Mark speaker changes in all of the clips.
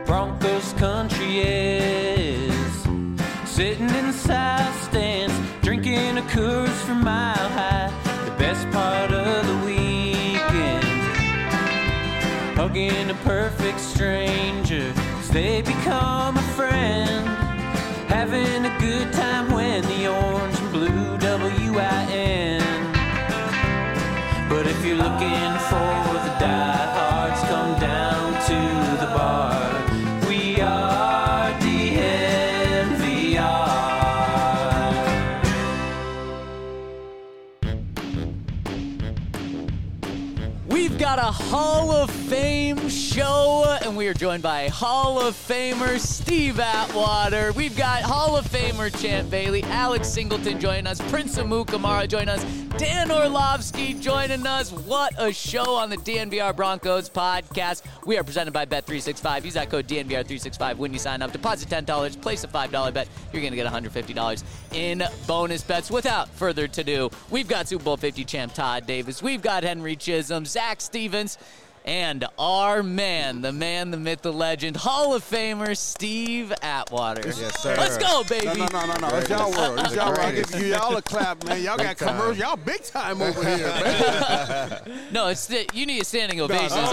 Speaker 1: Broncos country is. Sitting in the south stands, drinking a Coors from Mile High. The best part of the weekend, hugging a perfect stranger, 'cause they become a friend. Having a good time when the orange and blue WIN. But if you're looking for the diehards, come down to the bar. We are DNVR.
Speaker 2: We've got a Hall of Fame show, and we are joined by Hall of Famer Steve Atwater. We've got Hall of Famer Champ Bailey, Alex Singleton joining us, Prince Amukamara joining us, Dan Orlovsky joining us. What a show on the DNVR Broncos podcast. We are presented by Bet365. Use that code DNVR365 when you sign up. Deposit $10, place a $5 bet. You're going to get $150 in bonus bets. Without further ado, we've got Super Bowl 50 champ Todd Davis. We've got Henry Chisholm, Zach Stevens, and our man, the myth, the legend, Hall of Famer Steve Atwater.
Speaker 3: Yes, sir.
Speaker 2: Let's go, baby.
Speaker 3: No. It's y'all world. It's y'all world. I give y'all a clap, man. Y'all got commercials. Y'all big time over here, man.
Speaker 2: No, you need a standing ovation.
Speaker 3: No,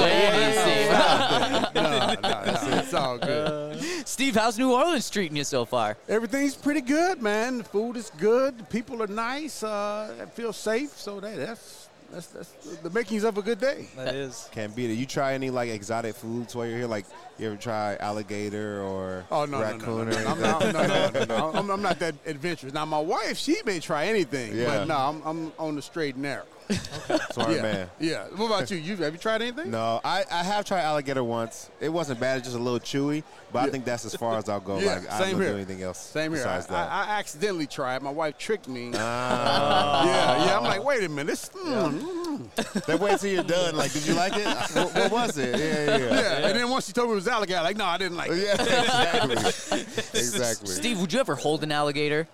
Speaker 3: it's all good.
Speaker 2: Steve, how's New Orleans treating you so far?
Speaker 3: Everything's pretty good, man. The food is good. The people are nice. I feel safe. So that's the makings of a good day.
Speaker 4: That is.
Speaker 5: Can't beat it. You try any like exotic foods while you're here? Like you ever try alligator or raccoon?
Speaker 3: No. I'm not that adventurous. Now my wife, she may try anything, but no, I'm on the straight and narrow.
Speaker 5: Okay. Smart man.
Speaker 3: Yeah. What about you? Have you tried anything?
Speaker 5: No, I have tried alligator once. It wasn't bad. It's just a little chewy, but I think that's as far as I'll go.
Speaker 3: Yeah,
Speaker 5: like, I
Speaker 3: same
Speaker 5: don't
Speaker 3: here.
Speaker 5: do anything else.
Speaker 3: Same here.
Speaker 5: Besides that.
Speaker 3: I accidentally tried. My wife tricked me. Yeah. I'm like, wait a minute.
Speaker 5: Then wait till you're done. Like, did you like it? What was it? Yeah.
Speaker 3: And then once she told me it was alligator, like, no, I didn't like it.
Speaker 5: Yeah, exactly.
Speaker 2: Steve, would you ever hold an alligator?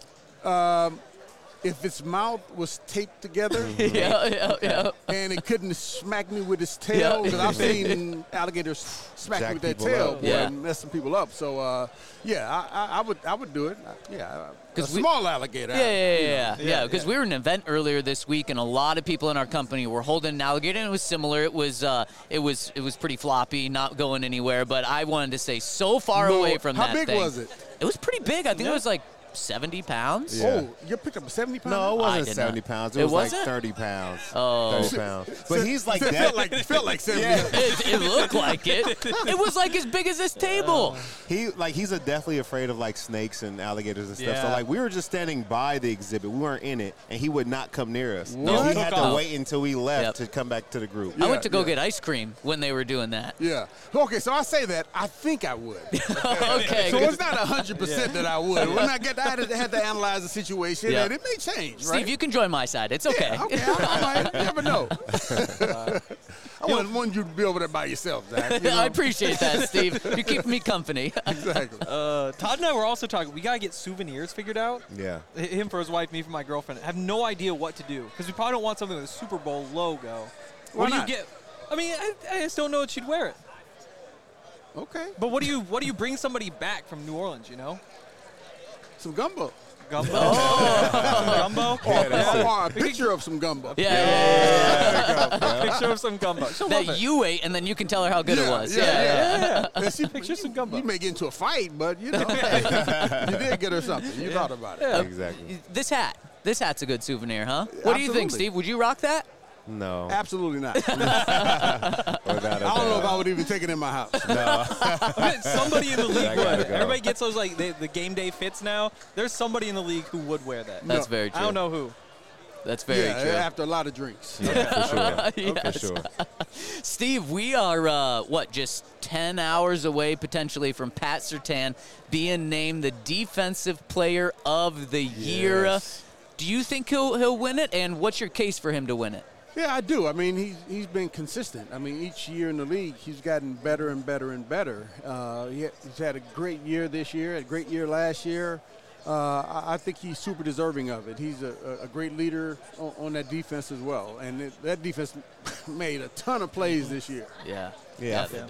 Speaker 3: If its mouth was taped together and it couldn't smack me with its tail, because I've seen alligators smack me with their tail and messing people up. So, I would do it. A small alligator.
Speaker 2: Yeah. Because we were at an event earlier this week, and a lot of people in our company were holding an alligator, and it was similar. It was pretty floppy, not going anywhere. But I wanted to stay so far away from that thing.
Speaker 3: How big was it?
Speaker 2: It was pretty big. I think it was like 70 pounds.
Speaker 5: Yeah.
Speaker 3: Oh, you picked up a 70 pound?
Speaker 5: No, it wasn't 70 pounds. It was like 30 pounds.
Speaker 2: Oh.
Speaker 5: 30 pounds. But he's like that.
Speaker 3: Felt like 70
Speaker 2: It looked like it. It was like as big as this table.
Speaker 5: He's definitely afraid of like snakes and alligators and stuff.
Speaker 4: Yeah.
Speaker 5: So like we were just standing by the exhibit. We weren't in it, and he would not come near us.
Speaker 2: No.
Speaker 5: He had to wait until we left to come back to the group.
Speaker 2: I went to go get ice cream when they were doing that.
Speaker 3: Yeah. Okay, so I say that. I think I would.
Speaker 2: Okay.
Speaker 3: So it's not 100% that I would. When I had to analyze the situation, and it may change, right?
Speaker 2: Steve, you can join my side. It's okay.
Speaker 3: Yeah, okay, I might. You never know. I want you to be over there by yourself, Zach. You know?
Speaker 2: I appreciate that, Steve. You're keeping me company.
Speaker 3: Exactly.
Speaker 4: Todd and I were also talking. We gotta get souvenirs figured out.
Speaker 5: Yeah.
Speaker 4: Him for his wife, me for my girlfriend. I have no idea what to do because we probably don't want something with a Super Bowl logo.
Speaker 3: Why
Speaker 4: What do
Speaker 3: not?
Speaker 4: you get? I mean, I just don't know if she'd wear it.
Speaker 3: Okay.
Speaker 4: But what do you bring somebody back from New Orleans? You know,
Speaker 3: Some gumbo.
Speaker 4: gumbo. Gumbo.
Speaker 3: Or a picture of some gumbo.
Speaker 4: Picture of some gumbo. She'll love
Speaker 2: That
Speaker 4: it.
Speaker 2: you ate, and then you can tell her how good it was.
Speaker 3: Yeah.
Speaker 4: Picture some gumbo.
Speaker 3: You may get into a fight, but you know, you did get her something. You thought about it.
Speaker 4: Yeah.
Speaker 5: Exactly.
Speaker 2: This hat's a good souvenir, huh? What do you think,
Speaker 3: Absolutely.
Speaker 2: Steve? Would you rock that?
Speaker 5: No.
Speaker 3: Absolutely not.
Speaker 5: Without
Speaker 3: I don't know if I would even take it in my house.
Speaker 4: Somebody in the league
Speaker 5: gotta
Speaker 4: would.
Speaker 5: go.
Speaker 4: Everybody gets those like the game day fits now. There's somebody in the league who would wear that.
Speaker 2: That's very true.
Speaker 4: I don't know who.
Speaker 2: That's very true.
Speaker 3: After a lot of drinks.
Speaker 5: For sure.
Speaker 2: Yes.
Speaker 5: For sure.
Speaker 2: Steve, we are, just 10 hours away potentially from Pat Surtain being named the Defensive Player of the Year.
Speaker 5: Yes.
Speaker 2: Do you think he'll win it, and what's your case for him to win it?
Speaker 3: Yeah, I do. I mean, he's been consistent. I mean, each year in the league, he's gotten better and better and better. He's had a great year this year, a great year last year. I think he's super deserving of it. He's a great leader on that defense as well. And that defense made a ton of plays this year.
Speaker 2: Yeah,
Speaker 5: Yeah.
Speaker 2: they did.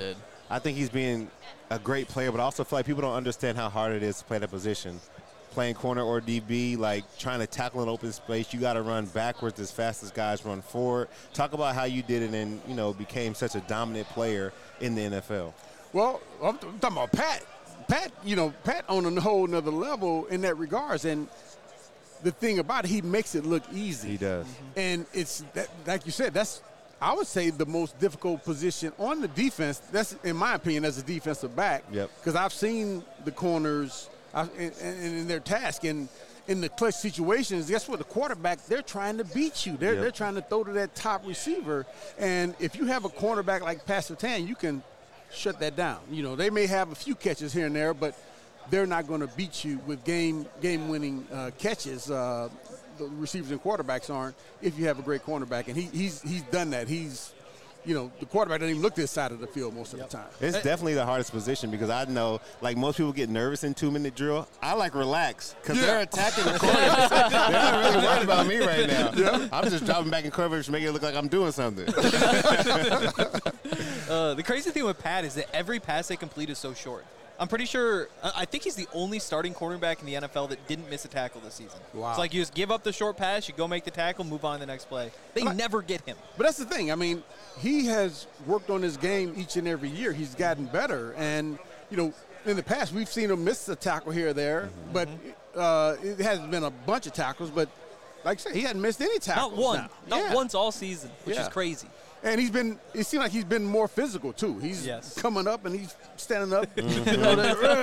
Speaker 5: I think he's being a great player, but I also feel like people don't understand how hard it is to play that position. Playing corner or DB, like trying to tackle an open space, you got to run backwards as fast as guys run forward. Talk about how you did it and, became such a dominant player in the NFL.
Speaker 3: Well, I'm talking about Pat. Pat on a whole nother level in that regards. And the thing about it, he makes it look easy.
Speaker 5: He does.
Speaker 3: And it's, like you said, that's, I would say, the most difficult position on the defense. That's, in my opinion, as a defensive back.
Speaker 5: Yep.
Speaker 3: Because I've seen the corners in their task. And in the clutch situations, guess what? The quarterback, they're trying to beat you. They're trying to throw to that top receiver. And if you have a cornerback like Pat Surtain, you can shut that down. They may have a few catches here and there, but they're not going to beat you with game-winning catches. The receivers and quarterbacks aren't if you have a great cornerback. And he's done that. The quarterback doesn't even look this side of the field most of the time.
Speaker 5: It's definitely the hardest position because I know, like most people get nervous in 2-minute drill. I relax because they're attacking the corner. They're not really worried about me right now. Yeah. I'm just dropping back in coverage to make it look like I'm doing something.
Speaker 4: The crazy thing with Pat is that every pass they complete is so short. I'm pretty sure – I think he's the only starting cornerback in the NFL that didn't miss a tackle this season.
Speaker 3: Wow.
Speaker 4: It's like you just give up the short pass, you go make the tackle, move on to the next play. They never get him.
Speaker 3: But that's the thing. I mean, he has worked on his game each and every year. He's gotten better. And, in the past we've seen him miss a tackle here or there, but it hasn't been a bunch of tackles. But like I said, he hadn't missed any tackles.
Speaker 4: Not one. Not once all season, which is crazy.
Speaker 3: And it seemed like he's been more physical, too. He's coming up and he's standing up. What you got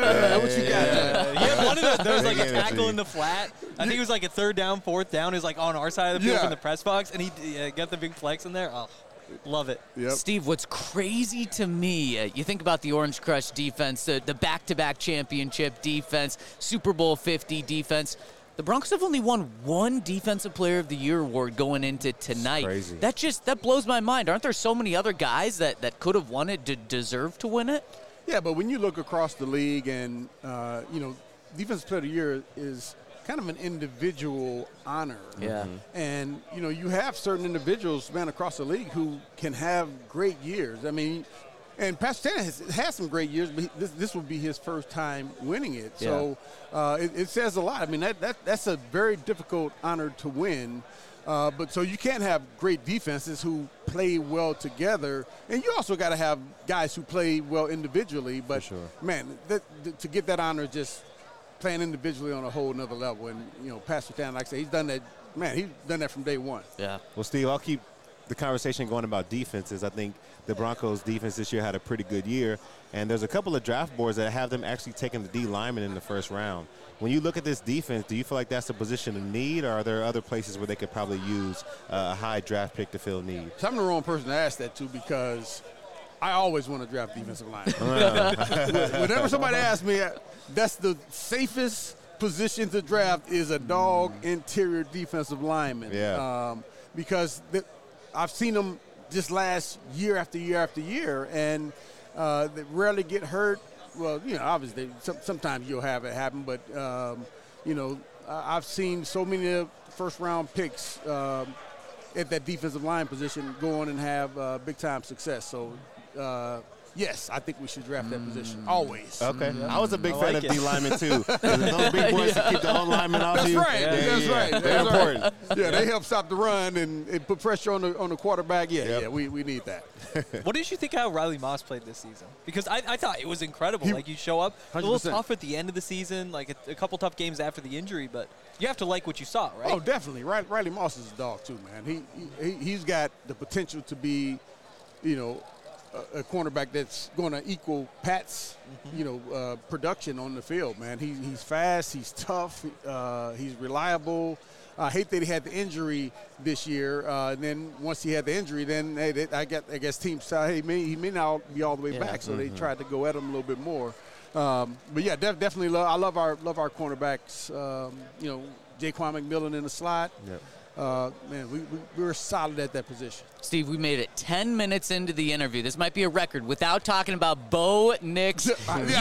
Speaker 3: there?
Speaker 4: He had one of the, there was like a tackle in the flat. I think it was like a 3rd down, 4th down. He was like on our side of the field from the press box, and he got the big flex in there. Oh, love it.
Speaker 3: Yep.
Speaker 2: Steve, what's crazy to me, you think about the Orange Crush defense, the back-to-back championship defense, Super Bowl 50 defense. The Broncos have only won one Defensive Player of the Year award going into tonight.
Speaker 5: Crazy.
Speaker 2: That blows my mind. Aren't there so many other guys that could have won it, deserve to win it?
Speaker 3: Yeah, but when you look across the league and, Defensive Player of the Year is kind of an individual honor.
Speaker 2: Yeah.
Speaker 3: And, you have certain individuals, man, across the league who can have great years. I mean, and Pat Surtain has had some great years, but this will be his first time winning it.
Speaker 2: Yeah.
Speaker 3: So it says a lot. I mean, that's a very difficult honor to win. But so you can't have great defenses who play well together, and you also got to have guys who play well individually. But, man, to get that honor, just playing individually on a whole nother level. And, Pat Surtain, like I say, he's done that. Man, he's done that from day one.
Speaker 2: Yeah.
Speaker 5: Well, Steve, I'll keep the conversation going about defenses. I think the Broncos' defense this year had a pretty good year, and there's a couple of draft boards that have them actually taking the D lineman in the first round. When you look at this defense, do you feel like that's a position of need, or are there other places where they could probably use a high draft pick to fill need?
Speaker 3: So I'm the wrong person to ask that to because I always want to draft defensive linemen. Whenever somebody asks me, that's the safest position to draft is a dog interior defensive lineman.
Speaker 5: Yeah.
Speaker 3: Because I've seen them just last year after year after year, and they rarely get hurt. Well, obviously, sometimes you'll have it happen, but, I've seen so many first-round picks at that defensive line position go on and have big-time success. So, yes, I think we should draft that position always.
Speaker 5: Okay. I was a big fan of D linemen, too. Those big boys to keep the own linemen off you.
Speaker 3: That's right.
Speaker 5: They're important.
Speaker 3: Yeah, they help stop the run and put pressure on the quarterback. Yeah, we need that.
Speaker 4: What did you think how Riley Moss played this season? Because I thought it was incredible. You show up, a little tough at the end of the season, like a couple tough games after the injury, but you have to like what you saw, right?
Speaker 3: Oh, definitely. Riley Moss is a dog, too, man. He's got the potential to be, a cornerback that's going to equal Pat's, production on the field, man. He's fast, he's tough, he's reliable. I hate that he had the injury this year. And then once he had the injury, then I guess teams said, hey, he may not be all the way back, so they tried to go at him a little bit more. But yeah, definitely I love our cornerbacks. Jaquan McMillan in the slot.
Speaker 5: Yep.
Speaker 3: man, we were solid at that position.
Speaker 2: Steve, we made it 10 minutes into the interview. This might be a record without talking about Bo Nix.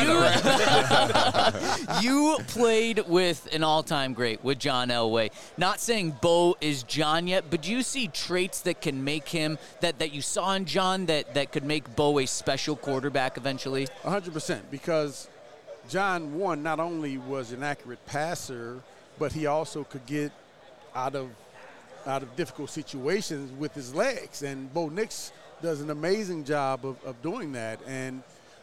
Speaker 2: You played with an all-time great, with John Elway. Not saying Bo is John yet, but do you see traits that can make him, that you saw in John, that could make Bo a special quarterback eventually?
Speaker 3: 100%, because John, one, not only was an accurate passer, but he also could get out of difficult situations with his legs. And Bo Nix does an amazing job of doing that. And,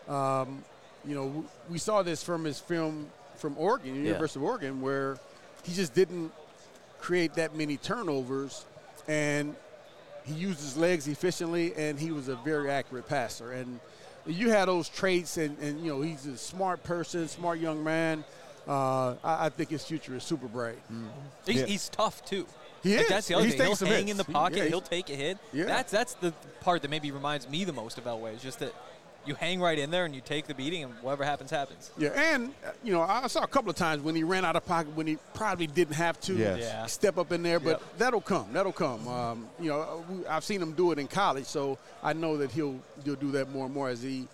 Speaker 3: we saw this from his film from Oregon, University of Oregon, where he just didn't create that many turnovers. And he used his legs efficiently, and he was a very accurate passer. And you had those traits, and he's a smart person, smart young man. I think his future is super bright.
Speaker 4: He's tough, too.
Speaker 3: He is.
Speaker 4: That's the other thing. He'll hang
Speaker 3: hits
Speaker 4: in the pocket.
Speaker 3: Yeah,
Speaker 4: he'll take a hit.
Speaker 3: Yeah.
Speaker 4: That's the part that maybe reminds me the most of Elway, is just that you hang right in there and you take the beating, and whatever happens, happens.
Speaker 3: Yeah, and, I saw a couple of times when he ran out of pocket when he probably didn't have to step up in there, but that'll come. That'll come. I've seen him do it in college, so I know that he'll do that more and more as he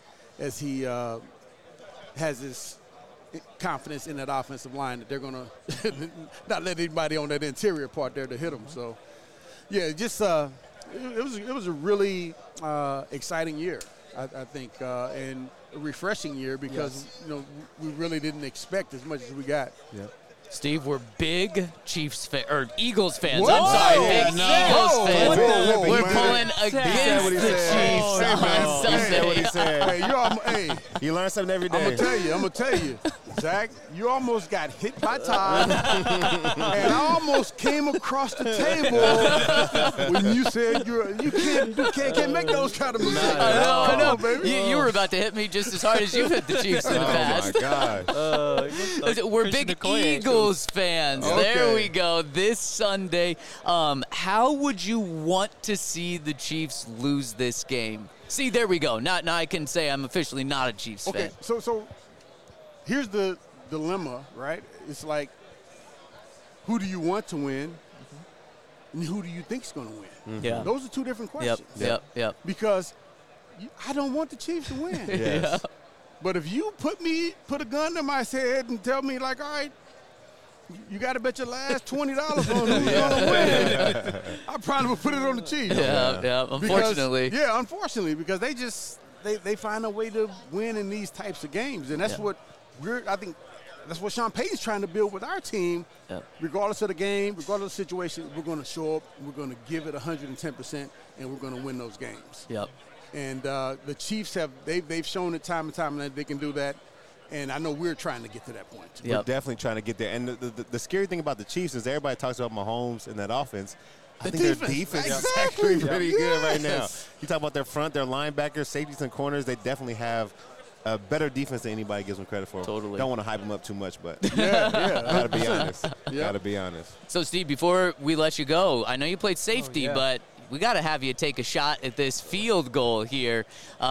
Speaker 3: has his confidence in that offensive line that they're going to not let anybody on that interior part there to hit them. So, yeah, just it was a really exciting year, I think, and a refreshing year because, we really didn't expect as much as we got.
Speaker 5: Yeah.
Speaker 2: Steve, we're big Eagles fans.
Speaker 3: Whoa.
Speaker 2: I'm sorry, big Eagles fans.
Speaker 3: Whoa,
Speaker 2: we're
Speaker 3: man.
Speaker 2: pulling against the Chiefs on Sunday.
Speaker 5: What he said.
Speaker 3: Hey,
Speaker 5: You learn something every day.
Speaker 3: I'm gonna tell you, Zach, you almost got hit by Todd, and I almost came across the table when you said you can't make those kind of mistakes.
Speaker 2: I know.
Speaker 3: Baby.
Speaker 2: You were about to hit me just as hard as you've hit the Chiefs in the past.
Speaker 5: Oh, my gosh.
Speaker 2: We're big Eagles fans.
Speaker 3: Okay.
Speaker 2: There we go. This Sunday, how would you want to see the Chiefs lose this game? See, there we go. Now I can say I'm officially not a Chiefs fan.
Speaker 3: Okay, so here's the dilemma, right? It's like, who do you want to win, and who do you think's going to win?
Speaker 2: Yeah.
Speaker 3: Those are two different questions.
Speaker 2: Yep.
Speaker 3: Because I don't want the Chiefs to win.
Speaker 5: Yes.
Speaker 3: But if you put a gun to my head and tell me, like, all right, you got to bet your last $20 on who's going to win, I probably would put it on the Chiefs.
Speaker 2: Yeah. Unfortunately.
Speaker 3: Unfortunately, because they find a way to win in these types of games, and that's what I think that's what Sean Payton's trying to build with our team.
Speaker 2: Yep.
Speaker 3: Regardless of the game, regardless of the situation, we're going to show up, we're going to give it 110%, and we're going to win those games.
Speaker 2: Yep.
Speaker 3: And the Chiefs they've shown it time and time that they can do that. And I know we're trying to get to that point.
Speaker 5: We're definitely trying to get there. And the scary thing about the Chiefs is everybody talks about Mahomes and that offense. I think their defense is actually pretty good right now. You talk about their front, their linebackers, safeties, and corners. They definitely have a better defense than anybody gives them credit for.
Speaker 2: Totally.
Speaker 5: Don't want to hype them up too much, but
Speaker 3: Gotta
Speaker 5: be honest. Gotta be honest.
Speaker 2: So, Steve, before we let you go, I know you played safety, but we got to have you take a shot at this field goal here.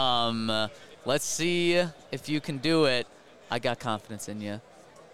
Speaker 2: Let's see if you can do it. I got confidence in you.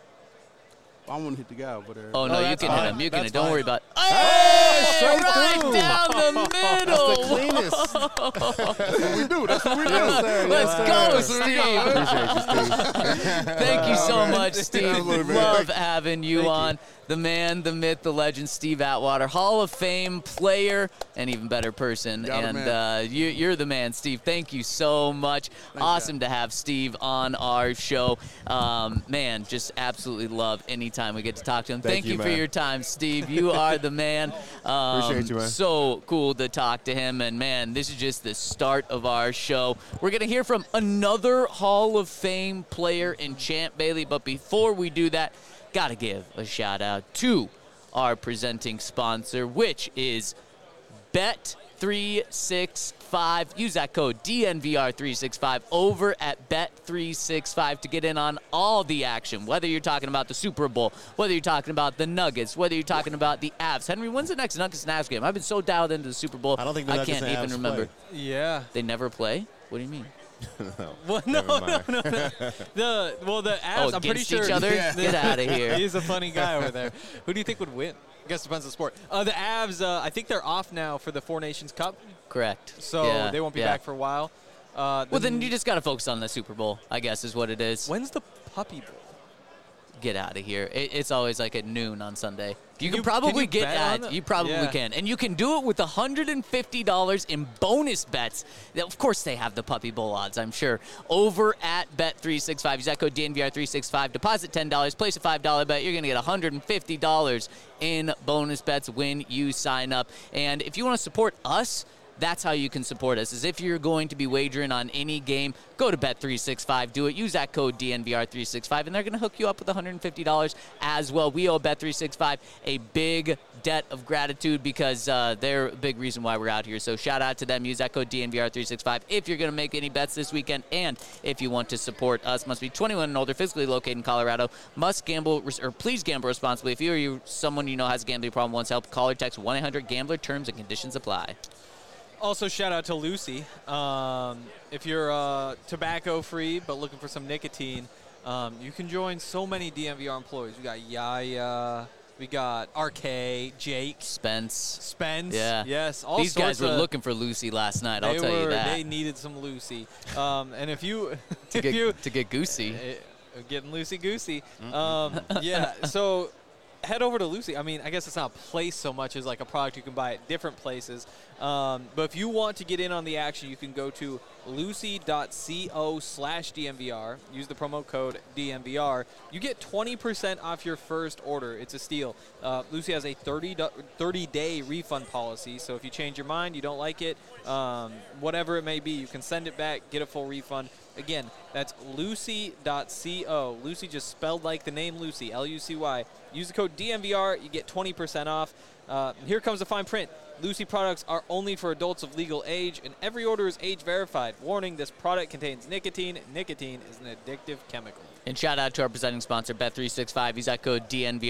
Speaker 3: I want to hit the guy over there.
Speaker 2: Oh, no, you can hit him. You can hit him. Don't worry about it.
Speaker 5: Hey,
Speaker 2: Right down the middle.
Speaker 5: That's the cleanest.
Speaker 3: That's what we do. That's what we do.
Speaker 2: Let's go, Steve.
Speaker 5: Appreciate you, Steve.
Speaker 2: Thank you so much, Steve.
Speaker 3: Absolutely.
Speaker 2: Love having you on. The man, the myth, the legend, Steve Atwater, Hall of Fame player, and even better person. You're the man, Steve. Thank you so much. Awesome to have Steve on our show. Man, just absolutely love anytime we get to talk to him. Thank you for your time, Steve. You are the man.
Speaker 5: Appreciate you, man.
Speaker 2: So cool to talk to him. And, man, this is just the start of our show. We're going to hear from another Hall of Fame player in Champ Bailey. But before we do that, got to give a shout out to our presenting sponsor, which is Bet365. Use that code DNVR365 over at Bet365 to get in on all the action, whether you're talking about the Super Bowl, whether you're talking about the Nuggets, whether you're talking about the Avs. Henry, when's the next Nuggets and Avs game? I've been so dialed into the Super Bowl,
Speaker 5: I don't think the Nuggets
Speaker 2: can't
Speaker 5: and
Speaker 2: even
Speaker 5: Avs
Speaker 2: remember.
Speaker 5: play.
Speaker 4: Yeah.
Speaker 2: They never play? What do you mean?
Speaker 4: Well, no. The Avs, I'm pretty
Speaker 2: against
Speaker 4: sure.
Speaker 2: each other? Get out of here.
Speaker 4: He's a funny guy over there. Who do you think would win? I guess it depends on the sport. The Avs, I think they're off now for the Four Nations Cup.
Speaker 2: Correct.
Speaker 4: So they won't be back for a while.
Speaker 2: Well, then you just got to focus on the Super Bowl, I guess, is what it is.
Speaker 4: When's the Puppy Bowl?
Speaker 2: Get out of here. It's always like at noon on Sunday. You can probably get at. You probably can. And you can do it with $150 in bonus bets. Of course, they have the Puppy Bowl odds, I'm sure. Over at Bet365. Use that code DNVR365. Deposit $10. Place a $5 bet. You're going to get $150 in bonus bets when you sign up. And if you want to support us, that's how you can support us, is if you're going to be wagering on any game, go to Bet365, do it, use that code DNVR365, and they're going to hook you up with $150 as well. We owe Bet365 a big debt of gratitude because they're a big reason why we're out here. So shout out to them. Use that code DNVR365 if you're going to make any bets this weekend, and if you want to support us. Must be 21 and older, physically located in Colorado. Must gamble, or please gamble responsibly. If you or someone you know has a gambling problem, wants help, call or text 1-800-GAMBLER. Terms and conditions apply.
Speaker 4: Also, shout out to Lucy. If you're tobacco-free but looking for some nicotine, you can join so many DNVR employees. We got Yaya, we got RK, Jake.
Speaker 2: Spence.
Speaker 4: Yeah. Yes.
Speaker 2: These guys were looking for Lucy last night, I'll tell you that.
Speaker 4: They needed some Lucy. And if you...
Speaker 2: to get goosey.
Speaker 4: Getting loosey-goosey. Yeah, so... head over to Lucy. I mean, I guess it's not a place so much as like a product you can buy at different places. But if you want to get in on the action, you can go to lucy.co/DNVR. Use the promo code DNVR. You get 20% off your first order. It's a steal. Lucy has a 30-day refund policy. So if you change your mind, you don't like it, whatever it may be, you can send it back, get a full refund. Again, that's lucy.co. Lucy just spelled like the name Lucy, Lucy. Use the code DNVR. You get 20% off. Here comes the fine print. Lucy products are only for adults of legal age, and every order is age verified. Warning, this product contains nicotine. Nicotine is an addictive chemical.
Speaker 2: And shout out to our presenting sponsor, Bet365. Use that code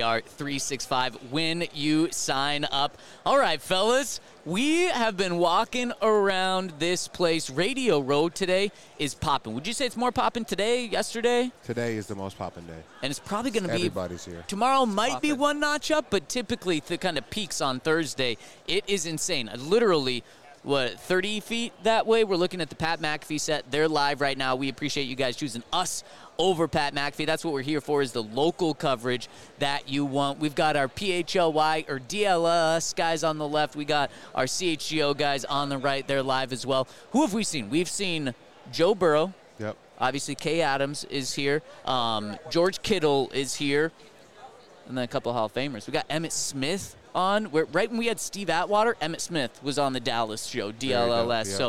Speaker 2: DNVR365 when you sign up. All right, fellas, we have been walking around this place. Radio Row today is popping. Would you say it's more popping today, yesterday?
Speaker 5: Today is the most popping day.
Speaker 2: And it's probably going to be...
Speaker 5: Everybody's here.
Speaker 2: Tomorrow might be one notch up, but typically the kind of peaks on Thursday. It is insane. Literally... 30 feet that way? We're looking at the Pat McAfee set. They're live right now. We appreciate you guys choosing us over Pat McAfee. That's what we're here for, is the local coverage that you want. We've got our PHLY or DLS guys on the left. We got our CHGO guys on the right. They're live as well. Who have we seen? We've seen Joe Burrow.
Speaker 5: Yep.
Speaker 2: Obviously, Kay Adams is here. George Kittle is here. And then a couple of Hall of Famers. We got Emmitt Smith on. Right when we had Steve Atwater, Emmitt Smith was on the Dallas show, DLLS. So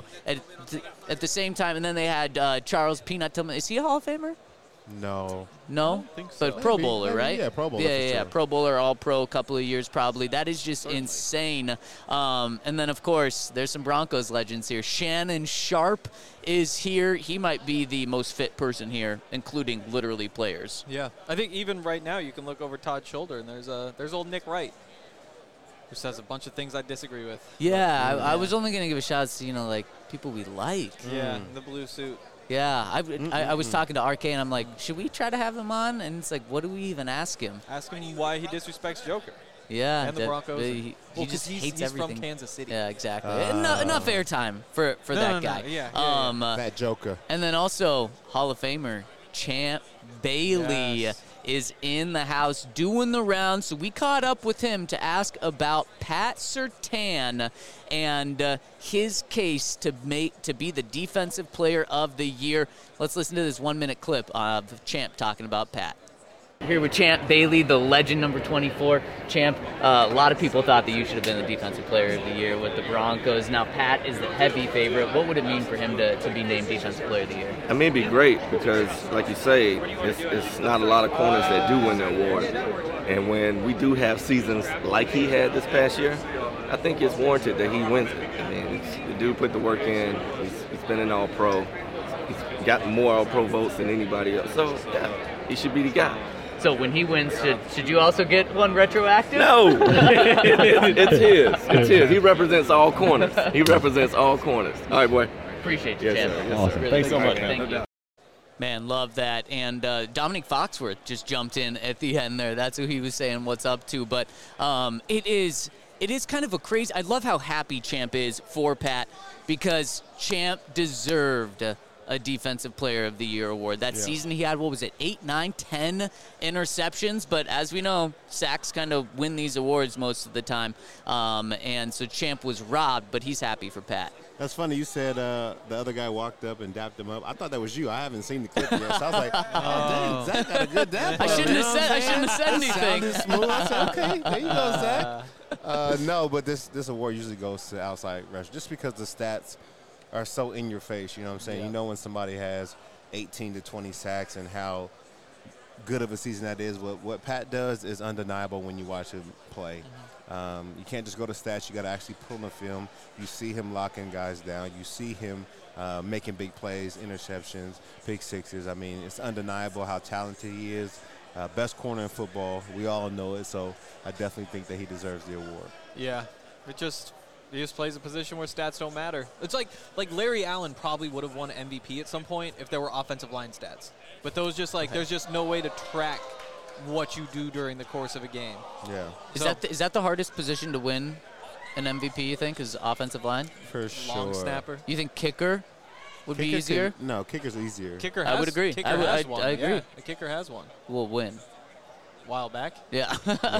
Speaker 2: at the same time, and then they had Charles Peanut Tillman. Is he a Hall of Famer?
Speaker 5: No.
Speaker 2: No?
Speaker 5: I don't think so.
Speaker 2: But Pro Bowler, right?
Speaker 5: Yeah, Pro Bowler.
Speaker 2: Yeah. Pro Bowler, All-Pro, a couple of years probably. That is just insane. And then, of course, there's some Broncos legends here. Shannon Sharp is here. He might be the most fit person here, including literally players.
Speaker 4: Yeah. I think even right now you can look over Todd's shoulder, and there's old Nick Wright, who says a bunch of things I disagree with.
Speaker 2: Yeah, I was only going to give a shout out to, like, people we like.
Speaker 4: Yeah, the blue suit.
Speaker 2: Yeah, I was talking to RK, and I'm like, should we try to have him on? And it's like, what do we even ask him?
Speaker 4: Ask him why he disrespects Joker.
Speaker 2: Yeah.
Speaker 4: And the Broncos.
Speaker 2: He just hates everything.
Speaker 4: He's from Kansas City.
Speaker 2: Yeah, exactly. Enough airtime for that guy.
Speaker 4: Yeah.
Speaker 5: That Joker.
Speaker 2: And then also, Hall of Famer Champ Bailey is in the house doing the rounds. So we caught up with him to ask about Pat Surtain and his case to be the Defensive Player of the Year. Let's listen to this 1-minute clip of Champ talking about Pat. Here with Champ Bailey, the legend number 24. Champ, a lot of people thought that you should have been the Defensive Player of the Year with the Broncos. Now Pat is the heavy favorite. What would it mean for him to be named Defensive Player of the Year?
Speaker 6: I mean, it'd be great because, like you say, it's not a lot of corners that do win the award. And when we do have seasons like he had this past year, I think it's warranted that he wins it. I mean, the dude put the work in. He's been an All-Pro. He's got more All-Pro votes than anybody else. So, yeah, he should be the guy.
Speaker 2: So when he wins, should you also get one retroactive?
Speaker 6: No. It's his. It's his. He represents all corners. All right, boy.
Speaker 2: Appreciate you, Champ.
Speaker 6: Sir.
Speaker 7: Awesome.
Speaker 2: Really
Speaker 7: Thanks so much,
Speaker 2: man. Thank you. Man, love that. And Dominic Foxworth just jumped in at the end there. That's who he was saying what's up to. But it is kind of a crazy – I love how happy Champ is for Pat because Champ deserved a Defensive Player of the Year award. That season he had, 8, 9, 10 interceptions? But as we know, sacks kind of win these awards most of the time. And so Champ was robbed, but he's happy for Pat.
Speaker 5: That's funny. You said the other guy walked up and dapped him up. I thought that was you. I haven't seen the clip yet. So I was like, oh, dang, Zach got a good dap.
Speaker 2: I shouldn't have said anything.
Speaker 5: Sounded smooth. I said, okay, there you go, Zach. No, but this award usually goes to outside rush just because the stats are so in your face. You know what I'm saying? Yeah. You know when somebody has 18 to 20 sacks and how good of a season that is. What Pat does is undeniable when you watch him play. You can't just go to stats. You got to actually pull in the film. You see him locking guys down. You see him making big plays, interceptions, pick sixes. I mean, it's undeniable how talented he is. Best corner in football. We all know it. So I definitely think that he deserves the award.
Speaker 4: Yeah, he just plays a position where stats don't matter. It's like Larry Allen probably would have won MVP at some point if there were offensive line stats. But those just there's just no way to track what you do during the course of a game.
Speaker 5: Yeah.
Speaker 2: Is that the hardest position to win an MVP, you think, is offensive line?
Speaker 5: For sure.
Speaker 4: Long snapper.
Speaker 2: You think kicker would be easier?
Speaker 5: No, kicker's easier.
Speaker 2: I would agree.
Speaker 4: Kicker has one.
Speaker 2: I agree.
Speaker 4: Yeah, the kicker has one.
Speaker 2: Will win.
Speaker 4: A while back?
Speaker 2: Yeah.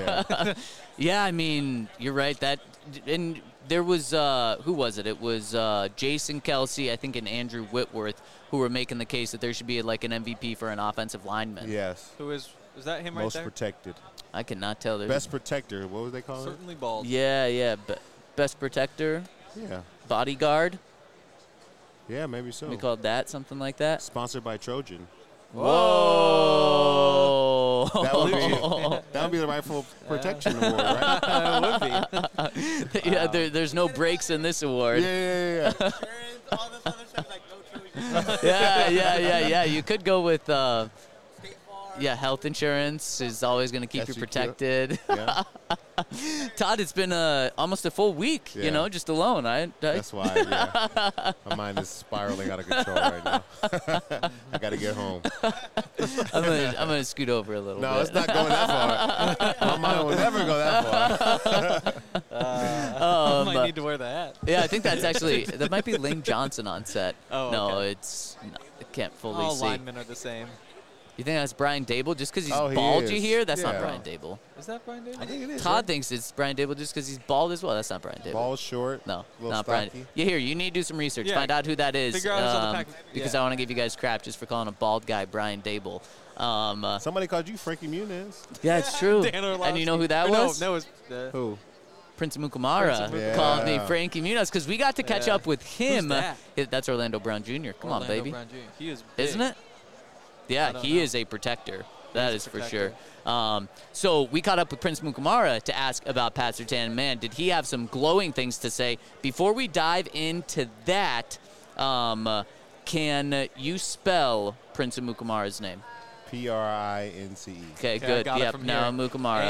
Speaker 2: Yeah, I mean, you're right. And there was, who was it? It was Jason Kelsey, I think, and Andrew Whitworth, who were making the case that there should be like an MVP for an offensive lineman.
Speaker 5: Yes.
Speaker 4: Who is that him right
Speaker 5: Most
Speaker 4: there?
Speaker 5: Most protected.
Speaker 2: I cannot tell.
Speaker 5: Best protector. What was they calling it?
Speaker 4: Certainly bald.
Speaker 2: Yeah. Best protector.
Speaker 5: Yeah.
Speaker 2: Bodyguard.
Speaker 5: Yeah, maybe so.
Speaker 2: We called that something like that.
Speaker 5: Sponsored by Trojan.
Speaker 2: Whoa!
Speaker 5: That would be the rightful protection award, right?
Speaker 4: It would
Speaker 2: be. Yeah, there's no breaks in this award.
Speaker 5: Yeah.
Speaker 7: All this other stuff like no Trojan.
Speaker 2: Yeah. You could go with health insurance is always going to keep you protected.
Speaker 5: Yeah.
Speaker 2: Todd, it's been almost a full week, just alone.
Speaker 5: That's why, my mind is spiraling out of control right now. I got to get home.
Speaker 2: I'm gonna scoot over a little bit.
Speaker 5: No, it's not going that far. My mind will never go that far.
Speaker 4: I might need to wear the hat.
Speaker 2: Yeah, I think that might be Lane Johnson on set.
Speaker 4: Oh,
Speaker 2: no,
Speaker 4: okay.
Speaker 2: I can't fully
Speaker 4: all
Speaker 2: see.
Speaker 4: All linemen are the same.
Speaker 2: You think that's Brian Dable just because he's bald, you hear? That's not Brian Dable.
Speaker 4: Is that Brian Dable?
Speaker 5: I think it is.
Speaker 2: Todd thinks it's Brian Dable just because he's bald as well. That's not Brian Dable.
Speaker 5: Bald, short,
Speaker 2: no,
Speaker 5: not
Speaker 2: Brian. You hear? You need to do some research. Find out who that is.
Speaker 4: Figure out who's on the pack.
Speaker 2: Because I want to give you guys crap just for calling a bald guy Brian Dable.
Speaker 5: Somebody called you Frankie Muniz.
Speaker 2: Yeah, it's true.
Speaker 4: And
Speaker 2: you know who that was?
Speaker 4: No, it was
Speaker 5: who?
Speaker 2: Prince Mukamara called me Frankie Muniz because we got to catch up with him.
Speaker 4: Who's that?
Speaker 2: That's Orlando Brown Jr. Come on, baby.
Speaker 4: Brown Jr. He is big.
Speaker 2: Isn't it? Yeah, he is a protector. That is for sure. So we caught up with Prince Mukamara to ask about Pat Surtain. Man, did he have some glowing things to say. Before we dive into that, can you spell Prince Mukamara's name?
Speaker 5: Prince.
Speaker 2: Okay, good.
Speaker 4: Yep,
Speaker 2: now Mukamara.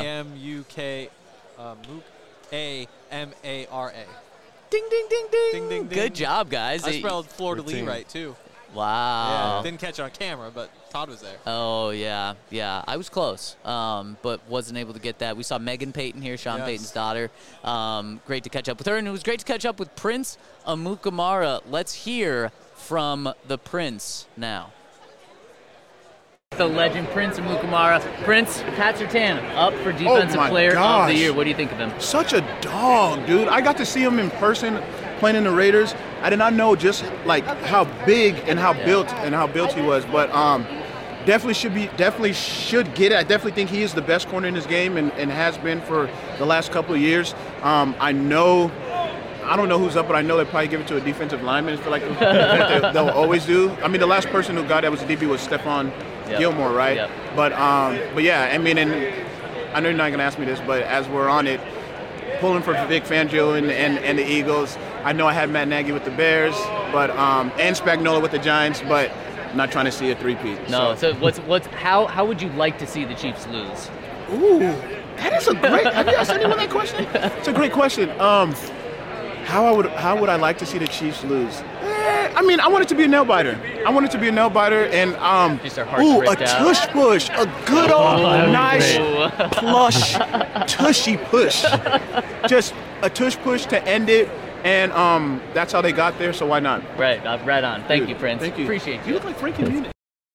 Speaker 4: AmukAmara.
Speaker 2: Ding, ding, ding, ding.
Speaker 4: Ding, ding, ding.
Speaker 2: Good job, guys.
Speaker 4: I spelled Fleur-de-Lis right, too.
Speaker 2: Wow.
Speaker 4: Yeah, didn't catch it on camera, but Todd was there.
Speaker 2: Oh, yeah. I was close, but wasn't able to get that. We saw Megan Payton here, Sean Payton's daughter. Great to catch up with her, and it was great to catch up with Prince Mukamara. Let's hear from the Prince now. The legend Prince Mukamara. Prince, Pat Surtain up for Defensive Player of the Year. What do you think of him?
Speaker 8: Such a dog, dude. I got to see him in person playing in the Raiders. I did not know just like how big and how built he was, but definitely should get it. I definitely think he is the best corner in this game and has been for the last couple of years. I don't know who's up, but I know they probably give it to a defensive lineman. I feel like they'll always do. I mean, the last person who got that was a DB was Stephon Gilmore, right?
Speaker 2: Yep.
Speaker 8: But yeah, I mean, and I know you're not going to ask me this, but as we're on it, pulling for Vic Fangio and the Eagles. I know I had Matt Nagy with the Bears, but and Spagnuolo with the Giants, but I'm not trying to see a three-peat.
Speaker 2: No. So how would you like to see the Chiefs lose?
Speaker 8: Ooh, that is a great. Have you asked anyone that question? It's a great question. How would I like to see the Chiefs lose? I mean, I want it to be a nail biter. And a tush push, a good old nice plush tushy push, just a tush push to end it. And that's how they got there, so why not?
Speaker 2: Right on. Thank you, Prince. Thank you. Appreciate you.
Speaker 8: You look like Frankie Muniz.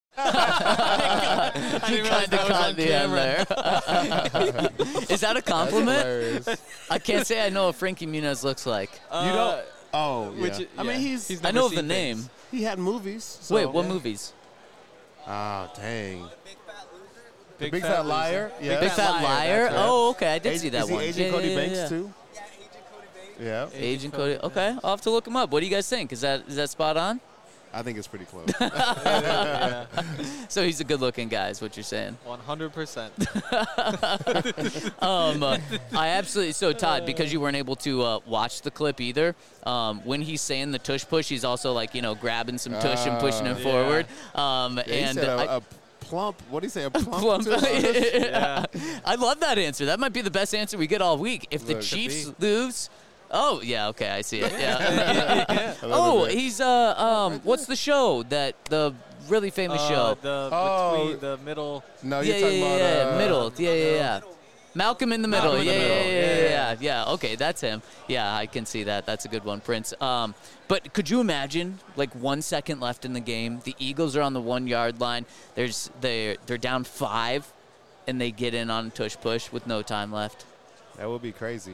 Speaker 2: You kind of caught the end there. Is that a compliment? I can't say I know what Frankie Muniz looks like.
Speaker 5: You don't? Oh, yeah.
Speaker 2: I mean, I know of the name.
Speaker 5: He had movies. So.
Speaker 2: Wait, what movies?
Speaker 5: Oh, dang.
Speaker 4: Big Fat
Speaker 5: Liar. Yeah.
Speaker 2: Big Fat Liar?
Speaker 5: Right.
Speaker 2: Oh, okay. I did see that one.
Speaker 5: Is he Agent Cody Banks, too?
Speaker 7: Yeah, Agent Cody Banks.
Speaker 5: Yeah.
Speaker 2: Agent Cody. Okay. I'll have to look him up. What do you guys think? Is that spot on?
Speaker 5: I think it's pretty close.
Speaker 2: So he's a good-looking guy, is what you're saying.
Speaker 4: 100%.
Speaker 2: I absolutely. So Todd, because you weren't able to watch the clip either, when he's saying the tush push, he's also like grabbing some tush and pushing it forward.
Speaker 5: He said a plump. What do you say? A plump.
Speaker 2: Yeah. I love that answer. That might be the best answer we get all week. If the Chiefs lose. Oh, yeah, okay, I see it. Yeah. Oh, he's what's the show the really famous show?
Speaker 4: The middle.
Speaker 5: No, you're talking about
Speaker 2: middle. Yeah. Malcolm in the Middle. Yeah. Okay, that's him. Yeah, I can see that. That's a good one, Prince. But could you imagine, like 1 second left in the game, the Eagles are on the 1 yard line. They're down 5, and they get in on tush push with no time left.
Speaker 5: That would be crazy.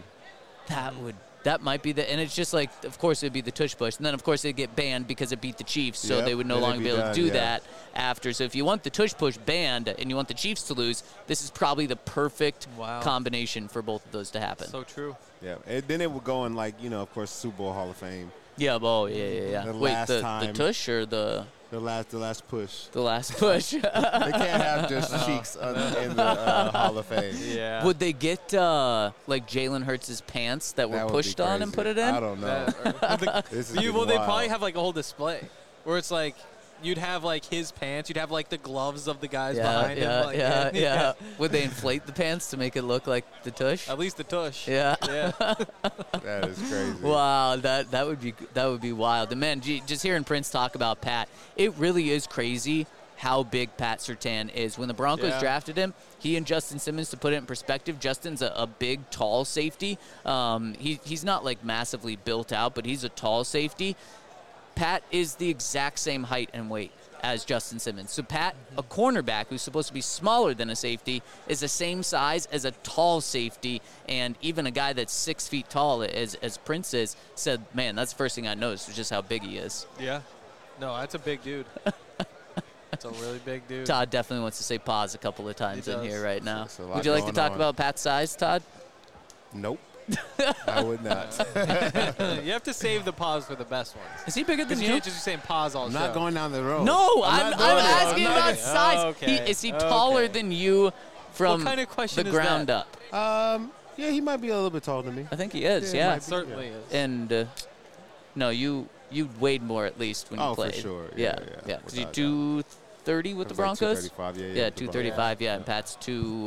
Speaker 2: That might be and it's just like, of course, it'd be the tush push. And then, of course, they'd get banned because it beat the Chiefs, so they would no longer be able to do that after. So if you want the tush push banned and you want the Chiefs to lose, this is probably the perfect combination for both of those to happen.
Speaker 4: So true.
Speaker 5: Yeah, and then it would go in of course, Super Bowl Hall of Fame.
Speaker 2: Yeah, yeah. Wait, the tush or the...
Speaker 5: The last push.
Speaker 2: The last push.
Speaker 5: They can't have just cheeks in the Hall of Fame.
Speaker 4: Yeah.
Speaker 2: Would they get like Jalen Hurts' pants that were pushed on and put it in?
Speaker 5: I don't know.
Speaker 4: They probably have like a whole display where it's like you'd have like his pants, you'd have like the gloves of the guys behind him.
Speaker 2: Yeah. Would they inflate the pants to make it look like the tush?
Speaker 4: At least the tush.
Speaker 2: Yeah.
Speaker 5: That is crazy.
Speaker 2: Wow, that would be wild. And man, just hearing Prince talk about Pat, it really is crazy how big Pat Surtain is. When the Broncos drafted him, he and Justin Simmons, to put it in perspective, Justin's a big, tall safety. He's not like massively built out, but he's a tall safety. Pat is the exact same height and weight as Justin Simmons. So Pat, a cornerback who's supposed to be smaller than a safety, is the same size as a tall safety. And even a guy that's 6 feet tall, as Prince is, said, man, that's the first thing I noticed was just how big he is.
Speaker 4: Yeah. No, that's a big dude. That's a really big dude.
Speaker 2: Todd definitely wants to say pause a couple of times in here right now. Would you like to talk about Pat's size, Todd?
Speaker 5: Nope. I would not.
Speaker 4: You have to save the pause for the best ones.
Speaker 2: Is he bigger than you?
Speaker 4: You can't just be saying pause all show.
Speaker 5: I'm not going down the road.
Speaker 2: No, I'm asking about size.
Speaker 4: Okay.
Speaker 2: Is he taller than you from
Speaker 4: what kind of question
Speaker 2: the ground up?
Speaker 5: Yeah, he might be a little bit taller than me.
Speaker 2: I think he is, yeah.
Speaker 4: Certainly is.
Speaker 2: And, no, you weighed more at least when you played.
Speaker 5: For sure.
Speaker 2: Yeah. Was you 230 with the Broncos?
Speaker 5: 235,
Speaker 2: yeah, 235, yeah. And Pat's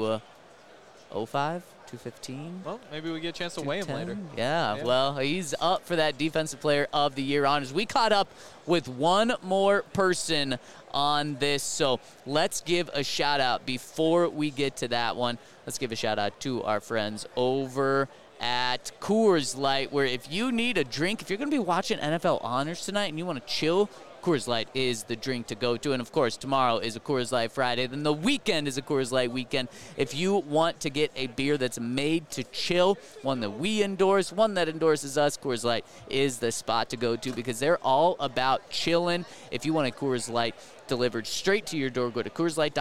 Speaker 2: 205? 215.
Speaker 4: Well, maybe we get a chance to weigh him later.
Speaker 2: Yeah, well, he's up for that Defensive Player of the Year honors. We caught up with one more person on this, so let's give a shout-out before we get to that one. Let's give a shout-out to our friends over at Coors Light, where if you need a drink, if you're going to be watching NFL honors tonight and you want to chill, Coors Light is the drink to go to. And, of course, tomorrow is a Coors Light Friday. Then the weekend is a Coors Light weekend. If you want to get a beer that's made to chill, one that we endorse, one that endorses us, Coors Light is the spot to go to because they're all about chilling. If you want a Coors Light delivered straight to your door, go to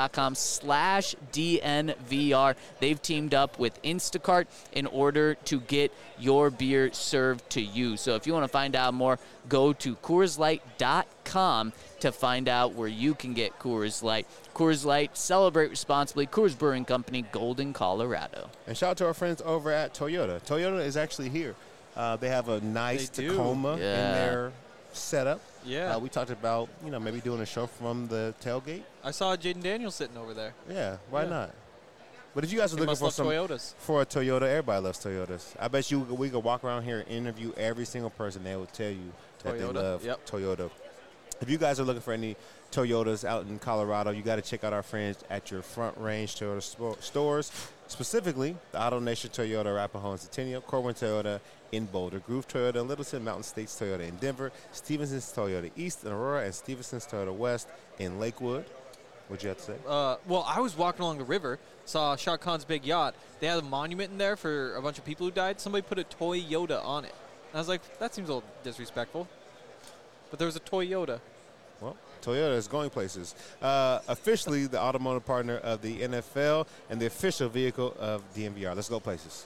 Speaker 2: CoorsLight.com/DNVR. They've teamed up with Instacart in order to get your beer served to you. So if you want to find out more, go to CoorsLight.com to find out where you can get Coors Light. Coors Light, celebrate responsibly. Coors Brewing Company, Golden, Colorado.
Speaker 5: And shout out to our friends over at Toyota. Toyota is actually here. They have a nice Tacoma in their setup.
Speaker 4: Yeah.
Speaker 5: We talked about, maybe doing a show from the tailgate.
Speaker 4: I saw Jaden Daniels sitting over there.
Speaker 5: Yeah, why not? But if you guys are looking for
Speaker 4: Toyotas.
Speaker 5: For a Toyota, everybody loves Toyotas. I bet we could walk around here and interview every single person. They will tell you that they love Toyota If you guys are looking for any Toyotas out in Colorado, you got to check out our friends at your Front Range Toyota stores, specifically the Auto Nation Toyota, Arapahoe and Centennial, Corwin Toyota in Boulder, Groove Toyota in Littleton, Mountain States Toyota in Denver, Stevenson's Toyota East in Aurora, and Stevenson's Toyota West in Lakewood. What'd you have to say?
Speaker 4: Well, I was walking along the river, saw Shah Khan's big yacht. They had a monument in there for a bunch of people who died. Somebody put a Toyota on it. And I was like, that seems a little disrespectful. But there was a Toyota.
Speaker 5: Well, Toyota is going places. Officially the automotive partner of the NFL and the official vehicle of DNVR. Let's go places.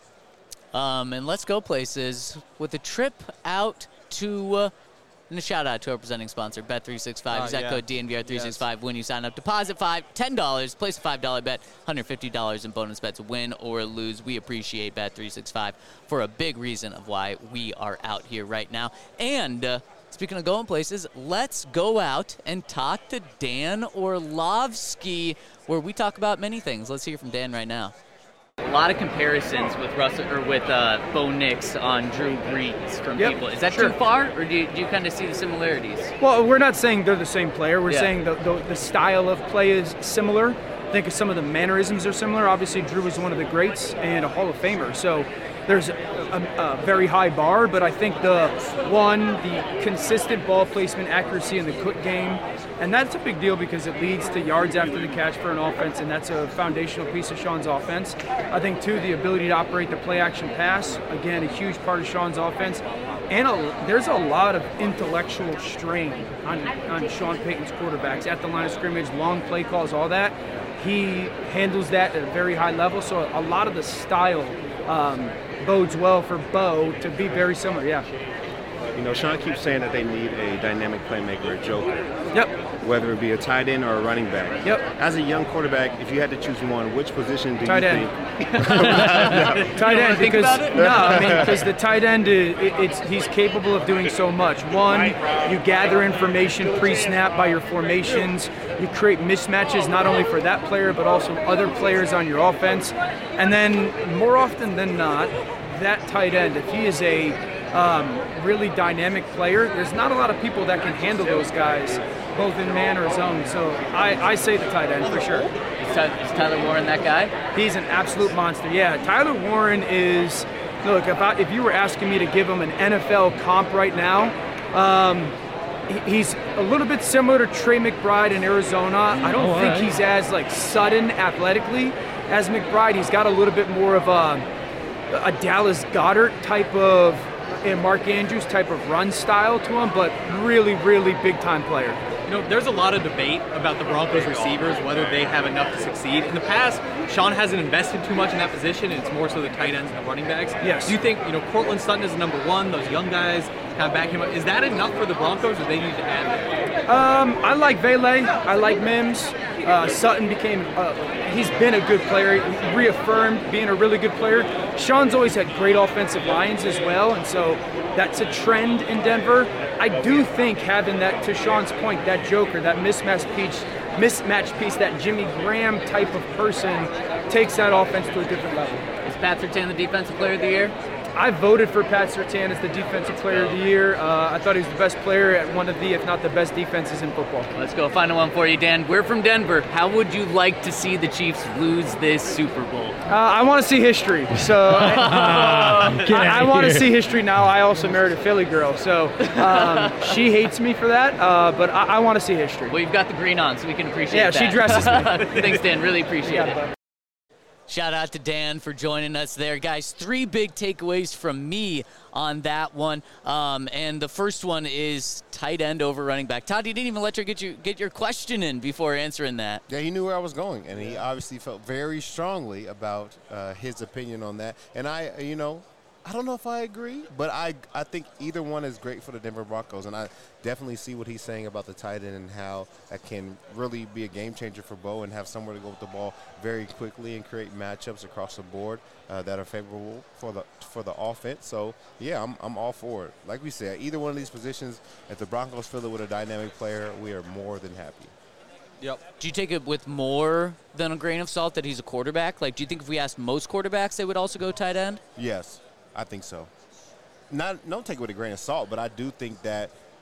Speaker 2: And let's go places with a trip out to and a shout out to our presenting sponsor, Bet365. Use that code DNVR365 when you sign up. Deposit $10, place a $5 bet, $150 in bonus bets, win or lose. We appreciate Bet365 for a big reason of why we are out here right now. And speaking of going places, let's go out and talk to Dan Orlovsky, where we talk about many things. Let's hear from Dan right now. A lot of comparisons with Bo Nix on Drew Brees from people. Is that too far, or do you kind of see the similarities?
Speaker 9: Well, we're not saying they're the same player. We're saying the style of play is similar. I think some of the mannerisms are similar. Obviously, Drew is one of the greats and a Hall of Famer. So there's a very high bar, but I think the consistent ball placement, accuracy in the quick game, and that's a big deal because it leads to yards after the catch for an offense, and that's a foundational piece of Sean's offense. I think, too, the ability to operate the play-action pass, again, a huge part of Sean's offense. And there's a lot of intellectual strain on Sean Payton's quarterbacks at the line of scrimmage, long play calls, all that. He handles that at a very high level, so a lot of the style bodes well for Bo to be very similar,
Speaker 8: You know, Sean keeps saying that they need a dynamic playmaker, a joker.
Speaker 9: Yep.
Speaker 8: Whether it be a tight end or a running back.
Speaker 9: Yep.
Speaker 8: As a young quarterback, if you had to choose one, which position do you
Speaker 9: think? Tight end, because the tight end, he's capable of doing so much. One, you gather information pre-snap by your formations. You create mismatches not only for that player but also other players on your offense. And then more often than not, that tight end, if he is a really dynamic player, there's not a lot of people that can handle those guys, both in man or zone. So I say the tight end for sure.
Speaker 2: Is Tyler Warren that guy?
Speaker 9: He's an absolute monster. Yeah, Tyler Warren is, look, if you were asking me to give him an NFL comp right now, he's a little bit similar to Trey McBride in Arizona. I don't think he's as sudden athletically as McBride. He's got a little bit more of a Dallas Goedert type of, and Mark Andrews type of run style to him, but really, really big-time player.
Speaker 10: You know, there's a lot of debate about the Broncos receivers, whether they have enough to succeed. In the past, Sean hasn't invested too much in that position, and it's more so the tight ends and the running backs.
Speaker 9: Yes.
Speaker 10: Do you think, Cortland Sutton is the number one, those young guys kind of back him up? Is that enough for the Broncos, or they need to add that?
Speaker 9: I like Vele. I like Mims. Sutton he's been a good player, reaffirmed being a really good player. Sean's always had great offensive lines as well, and so that's a trend in Denver. I do think having that, to Sean's point, that joker, that mismatch piece, that Jimmy Graham type of person takes that offense to a different level.
Speaker 2: Is Pat Surtain the Defensive Player of the Year?
Speaker 9: I voted for Pat Surtain as the Defensive Player of the Year. I thought he was the best player at one of the, if not the best defenses in football.
Speaker 2: Let's go. Final one for you, Dan. We're from Denver. How would you like to see the Chiefs lose this Super Bowl?
Speaker 9: I want to see history. So I want to see history now. I also married a Philly girl, so she hates me for that, but I want to see history.
Speaker 2: Well, you've got the green on, so we can appreciate that.
Speaker 9: Yeah, she dresses me.
Speaker 2: Thanks, Dan. Really appreciate it. Shout out to Dan for joining us there. Guys, 3 big takeaways from me on that one. And the first one is tight end over running back. Todd, you didn't even let her get your question in before answering that.
Speaker 5: Yeah, he knew where I was going, and he obviously felt very strongly about his opinion on that. And I don't know if I agree, but I think either one is great for the Denver Broncos, and I definitely see what he's saying about the tight end and how that can really be a game changer for Bo and have somewhere to go with the ball very quickly and create matchups across the board that are favorable for the offense. So, yeah, I'm all for it. Like we said, either one of these positions, if the Broncos fill it with a dynamic player, we are more than happy.
Speaker 2: Yep. Do you take it with more than a grain of salt that he's a quarterback? Like, do you think if we asked most quarterbacks, they would also go tight end?
Speaker 5: Yes. I think so. Don't take it with a grain of salt, but I do think that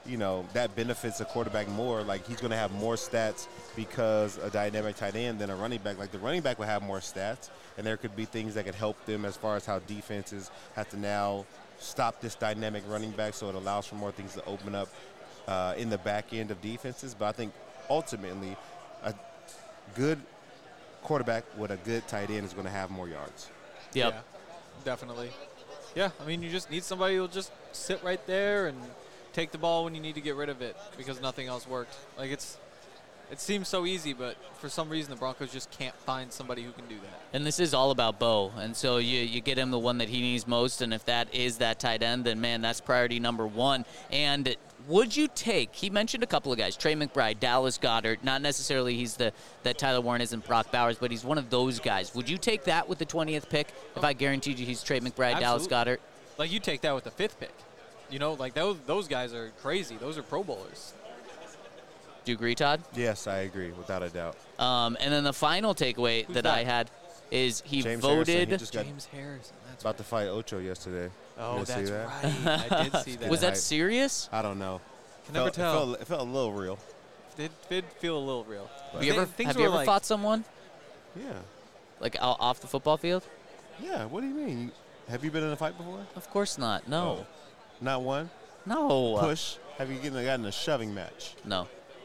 Speaker 5: that benefits a quarterback more. Like, he's going to have more stats because a dynamic tight end than a running back. Like, the running back will have more stats, and there could be things that could help them as far as how defenses have to now stop this dynamic running back, so it allows for more things to open up in the back end of defenses. But I think ultimately a good quarterback with a good tight end is going to have more yards.
Speaker 4: Yep. Yeah, definitely. Yeah, I mean, you just need somebody who will just sit right there and take the ball when you need to get rid of it because nothing else worked. Like, it seems so easy, but for some reason the Broncos just can't find somebody who can do that.
Speaker 2: And this is all about Bo, and so you get him the one that he needs most, and if that is that tight end, then, man, that's priority number one. And would you take, he mentioned a couple of guys, Trey McBride, Dallas Goedert, not necessarily he's that Tyler Warren isn't Brock Bowers, but he's one of those guys. Would you take that with the 20th pick if I guaranteed you he's Trey McBride,
Speaker 4: Absolutely.
Speaker 2: Dallas Goedert?
Speaker 4: Like, you take that with the 5th pick. Like, those guys are crazy. Those are Pro Bowlers.
Speaker 2: Do you agree, Todd?
Speaker 5: Yes, I agree, without a doubt.
Speaker 2: And then the final takeaway that I had is he voted.
Speaker 4: James Harrison. That's
Speaker 5: about to fight Ocho yesterday.
Speaker 4: Oh, that's right. I did see that.
Speaker 2: Was that serious?
Speaker 5: I don't know.
Speaker 4: Can never tell.
Speaker 5: It felt a little real.
Speaker 4: It did feel a little real.
Speaker 2: Have you ever fought someone?
Speaker 5: Yeah.
Speaker 2: Like off the football field?
Speaker 5: Yeah. What do you mean? Have you been in a fight before?
Speaker 2: Of course not. No.
Speaker 5: Oh. Not one?
Speaker 2: No.
Speaker 5: Push? Have you gotten a shoving match?
Speaker 2: No.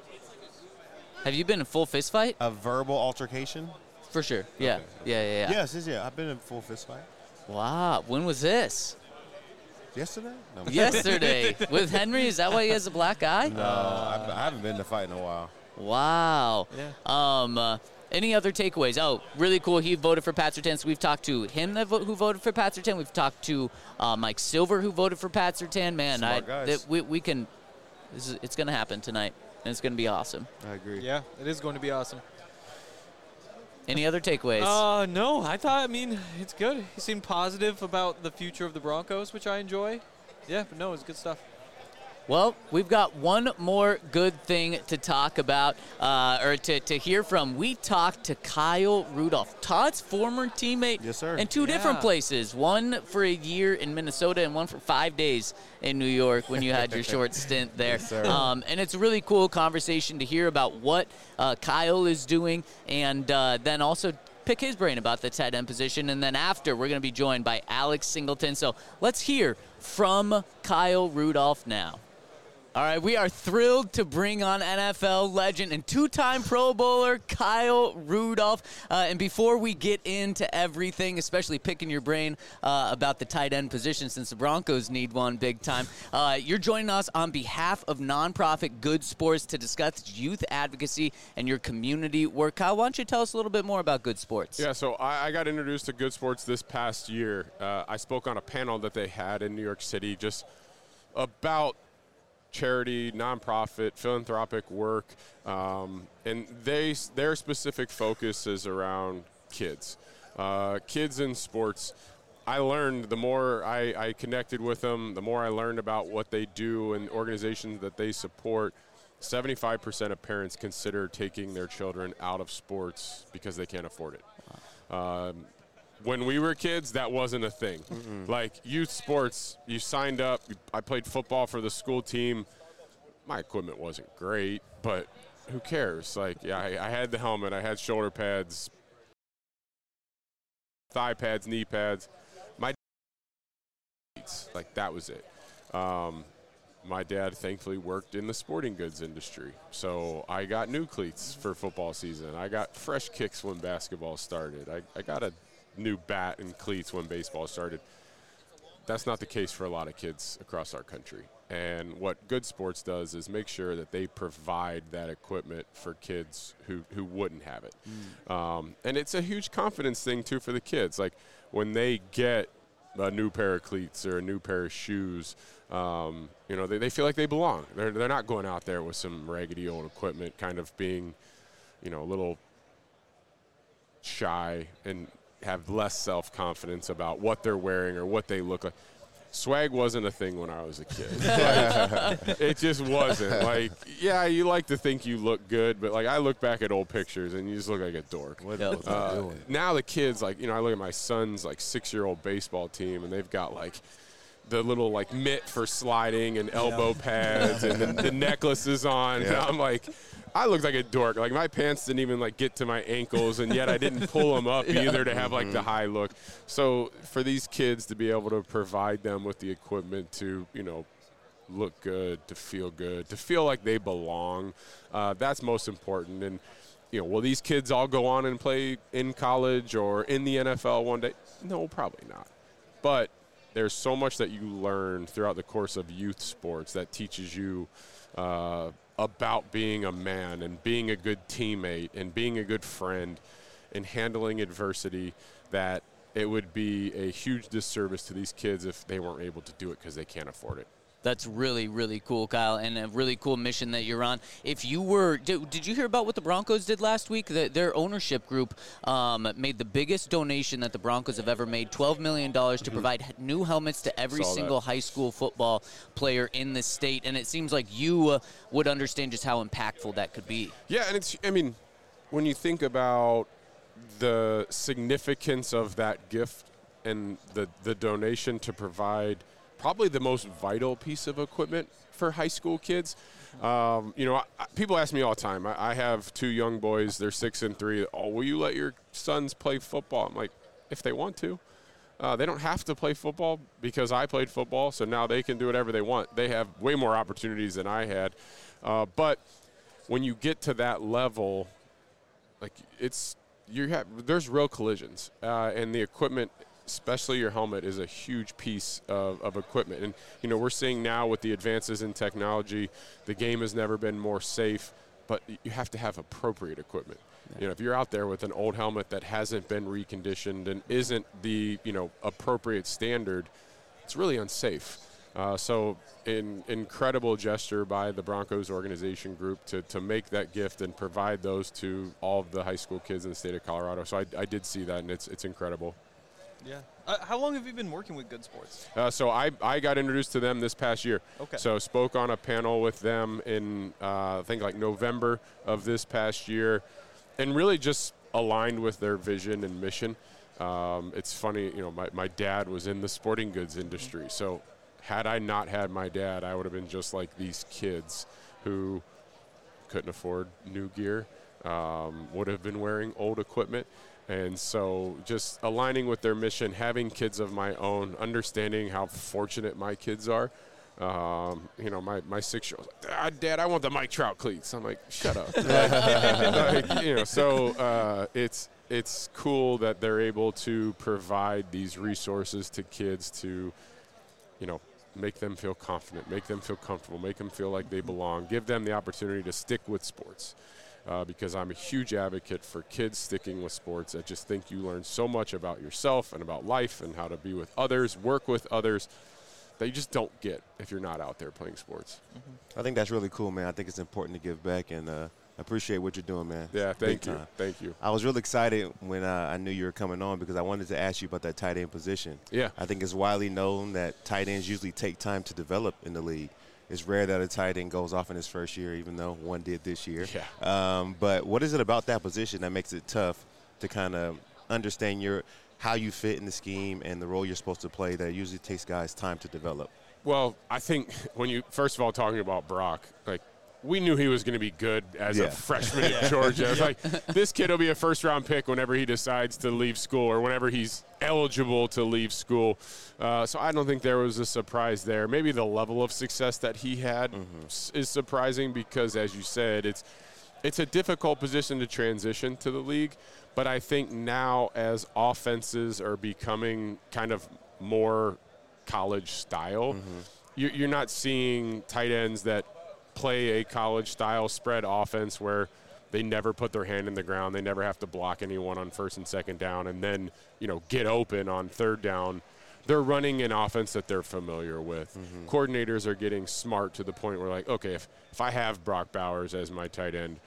Speaker 2: Have you been in a full fist fight?
Speaker 5: A verbal altercation?
Speaker 2: For sure. Yeah. Okay. Yeah.
Speaker 5: Yes. I've been in a full fist fight.
Speaker 2: Wow. When was this?
Speaker 5: Yesterday? No.
Speaker 2: Yesterday. With Henry? Is that why he has a black eye?
Speaker 5: No. I haven't been in a fight in a while.
Speaker 2: Wow.
Speaker 4: Yeah.
Speaker 2: Any other takeaways? Oh, really cool. He voted for Pat Surtain. So we've talked to him who voted for Pat Surtain. We've talked to Mike Silver who voted for Pat Surtain. Man, we can. It's going to happen tonight, and it's going to be awesome.
Speaker 5: I agree.
Speaker 4: Yeah, it is going to be awesome.
Speaker 2: Any other takeaways?
Speaker 4: No. I mean, it's good. He seemed positive about the future of the Broncos, which I enjoy. Yeah, but no, it's good stuff.
Speaker 2: Well, we've got one more good thing to talk about, or to hear from. We talked to Kyle Rudolph, Todd's former teammate.
Speaker 5: Yes, sir.
Speaker 2: In two different places, one for a year in Minnesota and one for 5 days in New York when you had your short stint there.
Speaker 5: Yes, sir.
Speaker 2: And it's a really cool conversation to hear about what Kyle is doing, and then also pick his brain about the tight end position. And then after, we're going to be joined by Alex Singleton. So let's hear from Kyle Rudolph now. All right, we are thrilled to bring on NFL legend and two-time Pro Bowler Kyle Rudolph. And before we get into everything, especially picking your brain about the tight end position since the Broncos need one big time, you're joining us on behalf of nonprofit Good Sports to discuss youth advocacy and your community work. Kyle, why don't you tell us a little bit more about Good Sports?
Speaker 11: Yeah, so I got introduced to Good Sports this past year. I spoke on a panel that they had in New York City just about charity, nonprofit, philanthropic work, and their specific focus is around kids. Kids in sports. I learned the more I connected with them, the more I learned about what they do and organizations that they support. 75% of parents consider taking their children out of sports because they can't afford it. When we were kids, that wasn't a thing. Mm-mm. Like youth sports, you signed up. I played football for the school team. My equipment wasn't great, but who cares? Like, yeah, I had the helmet. I had shoulder pads, thigh pads, knee pads. Like, that was it. My dad thankfully worked in the sporting goods industry, so I got new cleats for football season. I got fresh kicks when basketball started. I got a new bat and cleats when baseball started. That's not the case for a lot of kids across our country. And what Good Sports does is make sure that they provide that equipment for kids who wouldn't have it. And it's a huge confidence thing, too, for the kids. Like, when they get a new pair of cleats or a new pair of shoes, they feel like they belong. They're not going out there with some raggedy old equipment kind of being, a little shy and have less self-confidence about what they're wearing or what they look like. Swag wasn't a thing when I was a kid. Like, it just wasn't. Like, yeah, you like to think you look good, but, like, I look back at old pictures and you just look like a dork.
Speaker 5: What doing?
Speaker 11: Now the kids, like, I look at my son's, like, 6-year-old baseball team, and they've got, like, the little like mitt for sliding and elbow pads and the necklaces on. Yeah. And I'm like, I looked like a dork. Like my pants didn't even like get to my ankles, and yet I didn't pull them up either to have like the high look. So for these kids to be able to provide them with the equipment to, you know, look good, to feel like they belong, that's most important. And, you know, will these kids all go on and play in college or in the NFL one day? No, probably not. But there's so much that you learn throughout the course of youth sports that teaches you about being a man and being a good teammate and being a good friend and handling adversity, that it would be a huge disservice to these kids if they weren't able to do it because they can't afford it.
Speaker 2: That's really, really cool, Kyle, and a really cool mission that you're on. If you were, did you hear about what the Broncos did last week? Their ownership group made the biggest donation that the Broncos have ever made, $12 million to provide new helmets to every single high school football player in the state. And it seems like you would understand just how impactful that could be.
Speaker 11: Yeah, and it's, I mean, when you think about the significance of that gift and the donation to provide probably the most vital piece of equipment for high school kids. You know, people ask me all the time. I have two young boys. They're 6 and 3. Oh, will you let your sons play football? I'm like, if they want to. They don't have to play football because I played football, so now they can do whatever they want. They have way more opportunities than I had. But when you get to that level, like there's real collisions, and the equipment, especially your helmet, is a huge piece of equipment. And, you know, we're seeing now with the advances in technology, the game has never been more safe, but you have to have appropriate equipment. Yeah. You know, if you're out there with an old helmet that hasn't been reconditioned and isn't the, you know, appropriate standard, it's really unsafe. So an incredible gesture by the Broncos organization group to make that gift and provide those to all of the high school kids in the state of Colorado. So I did see that, and it's incredible.
Speaker 4: Yeah. How long have you been working with Good Sports?
Speaker 11: So I got introduced to them this past year.
Speaker 4: Okay.
Speaker 11: So spoke on a panel with them in, I think, like November of this past year, and really just aligned with their vision and mission. It's funny, you know, my dad was in the sporting goods industry. So had I not had my dad, I would have been just like these kids who couldn't afford new gear, would have been wearing old equipment. And so just aligning with their mission, having kids of my own, understanding how fortunate my kids are. You know, my 6-year-old, Dad, I want the Mike Trout cleats. I'm like, shut up. You know, so it's cool that they're able to provide these resources to kids to, you know, make them feel confident, make them feel comfortable, make them feel like they belong, give them the opportunity to stick with sports. Because I'm a huge advocate for kids sticking with sports. I just think you learn so much about yourself and about life and how to be with others, work with others, that you just don't get if you're not out there playing sports.
Speaker 5: I think that's really cool, man. I think it's important to give back, and I appreciate what you're doing, man.
Speaker 11: Yeah, thank you. Thank you.
Speaker 5: I was really excited when I knew you were coming on because I wanted to ask you about that tight end position.
Speaker 11: Yeah.
Speaker 5: I think it's widely known that tight ends usually take time to develop in the league. It's rare that a tight end goes off in his first year, even though one did this year.
Speaker 11: Yeah.
Speaker 5: But what is it about that position that makes it tough to kind of understand how you fit in the scheme and the role you're supposed to play that usually takes guys time to develop?
Speaker 11: Well, I think when you, first of all, talking about Brock, like, we knew he was going to be good as a freshman at Georgia. It's like, this kid will be a first-round pick whenever he decides to leave school or whenever he's eligible to leave school. So I don't think there was a surprise there. Maybe the level of success that he had is surprising because, as you said, it's a difficult position to transition to the league. But I think now as offenses are becoming kind of more college style, you're not seeing tight ends that play a college-style spread offense where they never put their hand in the ground, they never have to block anyone on first and second down, and then, you know, get open on third down. They're running an offense that they're familiar with. Coordinators are getting smart to the point where, like, okay, if I have Brock Bowers as my tight end,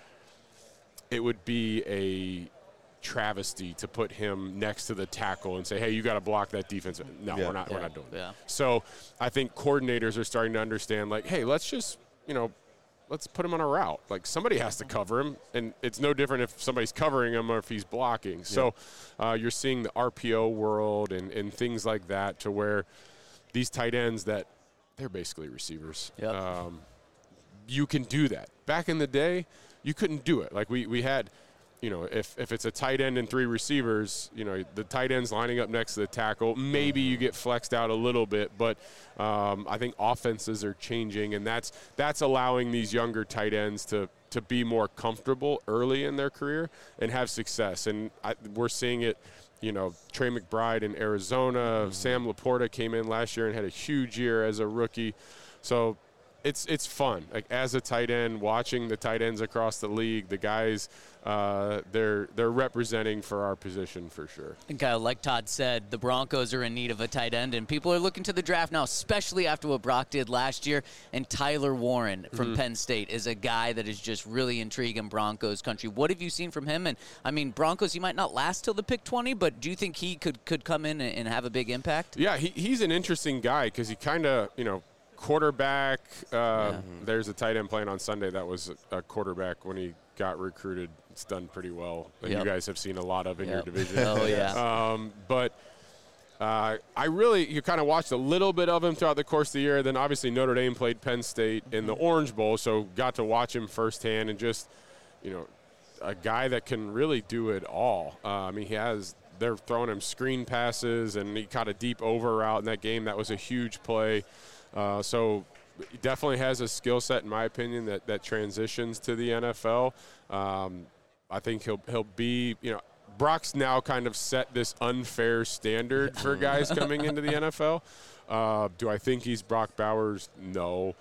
Speaker 11: it would be a travesty to put him next to the tackle and say, hey, you got to block that defense. No, we're not doing that. So I think coordinators are starting to understand, like, hey, let's just, you know, let's put him on a route. Like, somebody has to cover him, and it's no different if somebody's covering him or if he's blocking. So you're seeing the RPO world and things like that to where these tight ends that they're basically receivers.
Speaker 2: Yep.
Speaker 11: You can do that. Back in the day, you couldn't do it. Like we had, if it's a tight end and 3 receivers, the tight end's lining up next to the tackle. Maybe you get flexed out a little bit, but I think offenses are changing, and that's allowing these younger tight ends to be more comfortable early in their career and have success. And we're seeing it. Trey McBride in Arizona, Sam Laporta came in last year and had a huge year as a rookie. So it's fun. Like as a tight end, watching the tight ends across the league, the guys, they're representing for our position for sure.
Speaker 2: And Kyle, like Todd said, the Broncos are in need of a tight end, and people are looking to the draft now, especially after what Brock did last year. And Tyler Warren from Penn State is a guy that is just really intriguing Broncos country. What have you seen from him? And I mean, Broncos, he might not last till the pick 20, but do you think he could come in and have a big impact?
Speaker 11: Yeah, he's an interesting guy because he kind of, quarterback. There's a tight end playing on Sunday that was a quarterback when he got recruited. It's done pretty well. That you guys have seen a lot of in your division.
Speaker 2: Oh, yeah.
Speaker 11: You kind of watched a little bit of him throughout the course of the year. Then obviously Notre Dame played Penn State in the Orange Bowl, so got to watch him firsthand and just, a guy that can really do it all. They're throwing him screen passes, and he caught a deep over route in that game. That was a huge play. So he definitely has a skill set, in my opinion, that transitions to the NFL. I think he'll be, Brock's now kind of set this unfair standard for guys coming into the NFL. Do I think he's Brock Bowers? No.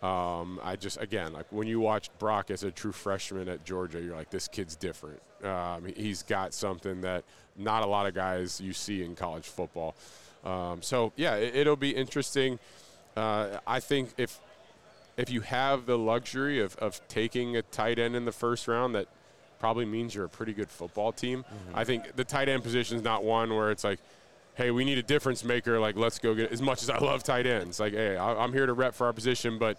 Speaker 11: When you watched Brock as a true freshman at Georgia, you're like, this kid's different. He's got something that not a lot of guys you see in college football. It'll be interesting. I think if you have the luxury of taking a tight end in the first round, that probably means you're a pretty good football team. I think the tight end position is not one where it's like, hey, we need a difference maker. Like, let's go get. As much as I love tight ends, like, hey, I'm here to rep for our position, but